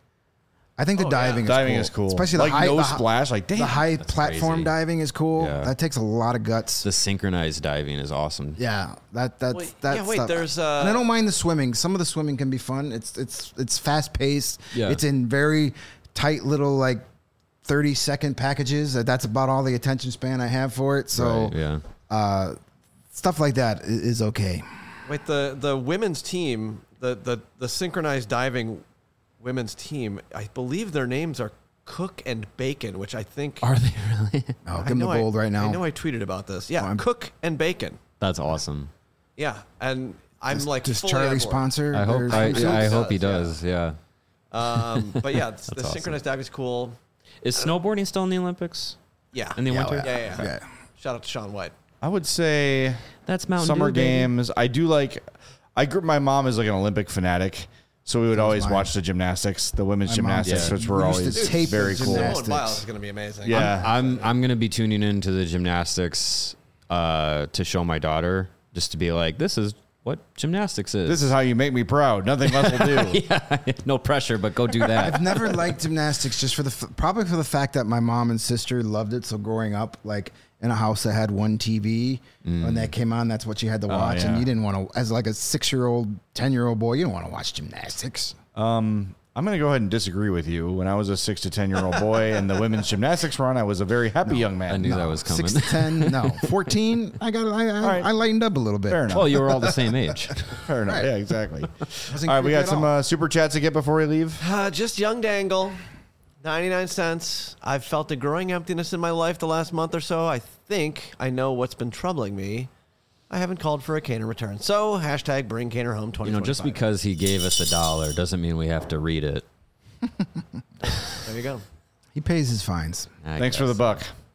I think the Oh, yeah. diving, Diving is is cool, cool. especially Like the high no the hi- splash, like, damn, the high that's platform crazy. diving is cool. Yeah. That takes a lot of guts. The synchronized diving is awesome. Yeah, that that's Wait, that's yeah, wait, stuff. there's, uh, and I don't mind the swimming. Some of the swimming can be fun. It's it's it's fast paced. Yeah. It's in very tight little like thirty second packages. That- That's about all the attention span I have for it. So Right, yeah. uh, stuff like that i- is okay. Wait, the the women's team, the the the synchronized diving women's team, I believe their names are Cook and Bacon, which I think Are they really? Oh, I give them the know I- gold right now. I know I tweeted about this. Yeah, Oh, I'm- Cook and Bacon. That's awesome. Yeah, and I'm Does- like, does fully Charlie on board. sponsor? I hope. their I, swimsuits? I hope he does, yeah. does. Yeah. Um, but yeah, it's- the awesome. synchronized diving is cool. Is snowboarding still in the Olympics? Yeah, In the Yeah, winter? yeah, Yeah, yeah. yeah. Shout out to Sean White. I would say That's Mountain summer Dew, baby. games. I do like. I grew. My mom is like an Olympic fanatic, so we would always mine. watch the gymnastics, the women's My mom- gymnastics, Yeah. which were We used to always tape very the cool. gymnastics. Simone Biles is going to be amazing. Yeah. I'm I'm gonna be tuning into the gymnastics uh, to show my daughter, just to be like, this is what gymnastics is. This is how you make me proud. Nothing less will do. yeah, no pressure, but go do that. I've never liked gymnastics just for the f- probably for the fact that my mom and sister loved it. So growing up, like in a house that had one T V, when that came on, that's what you had to watch, and yeah. you didn't want to, as like a six year old, ten year old boy, you don't want to watch gymnastics. Um, I'm going to go ahead and disagree with you. When I was a six to ten year old boy and the women's gymnastics were on, I was a very happy young man. I knew that was coming. Six to ten, no, fourteen. I got, I, I, right. I lightened up a little bit. Fair enough. Well, you were all the same age. Fair enough. Right. Yeah, exactly. Wasn't All right, we creepy got at some all. uh, super chats to get before we leave. Uh, just young dangle, ninety-nine cents. I've felt a growing emptiness in my life the last month or so. I think I know what's been troubling me. I haven't called for a Caner return. So, hashtag bring Caner home twenty twenty-five. You know, just because he gave us a dollar doesn't mean we have to read it. There you go. He pays his fines. I Thanks for the guess. buck.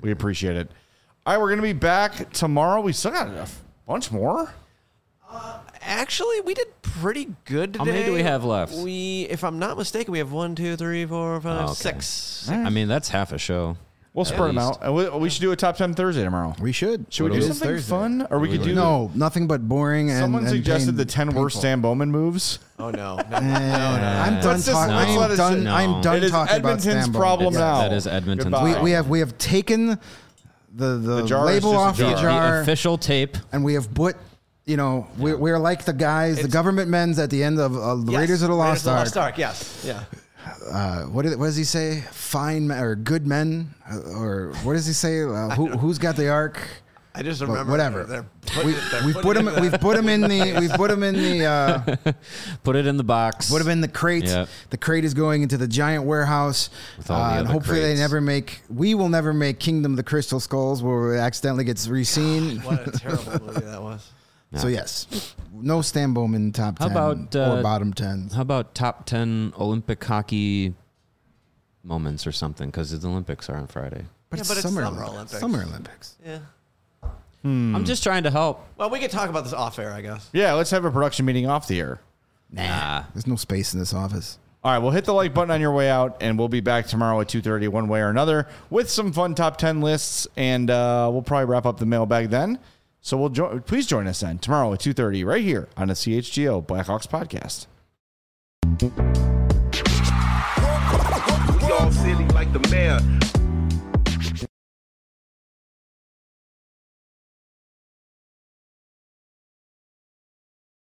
We appreciate it. All right, we're going to be back tomorrow. We still got a bunch more. Uh, actually, we did pretty good today. How many do we have left? We, if I'm not mistaken, we have one, two, three, four, five, Oh, okay. six. I mean, that's half a show. We'll spread them out. And we, we should do a top ten Thursday tomorrow. We should. Should we It do is something Thursday. fun? Or we could do... No, nothing but boring and Someone and suggested pain- the ten worst painful. Stan Bowman moves. Oh, no. No, Eh, no, no. I'm done Let's just- talking. let's let I'm us- done. No. I'm done It is talking about Edmonton's Stan Bowman. problem Yes. now. That is Edmonton's Goodbye. We, problem. we have we have taken the the, The jar is label just a off the jar. The jar, official tape. and we have put. You know, we're, we're like the guys, the It's- government men's at the end of uh, the Yes. Raiders of the Lost Raiders of the Ark. Yes. Yeah. Uh, what, did, what does he say? Fine men, or good men, uh, or what does he say? Uh, who, who's got the ark? I just But remember. whatever. They're putting We, it- they're we've putting put it him. in the- We've put him in the. We've put him in the. Uh, Put it in the box. put him in the crate. Yep. The crate is going into the giant warehouse. With all the uh, and other hopefully crates. they never make. We will never make Kingdom of the Crystal Skulls, where it accidentally gets re-seen. What a terrible movie that was. So yes, no Stan Bowman top How ten about, or uh, bottom tens. How about top ten Olympic hockey moments or something? Because the Olympics are on Friday. But Yeah, it's but it's Summer Summer Olympics. Olympics. Summer Olympics. Yeah. I'm just trying to help. Well, we could talk about this off air, I guess. Yeah, let's have a production meeting off the air. Nah. There's no space in this office. All right, well, hit the like button on your way out, and we'll be back tomorrow at two thirty one way or another with some fun top ten lists, and uh, we'll probably wrap up the mailbag then. So we'll jo- please join us then tomorrow at two thirty right here on the C H G O Blackhawks podcast. We all silly like the mayor.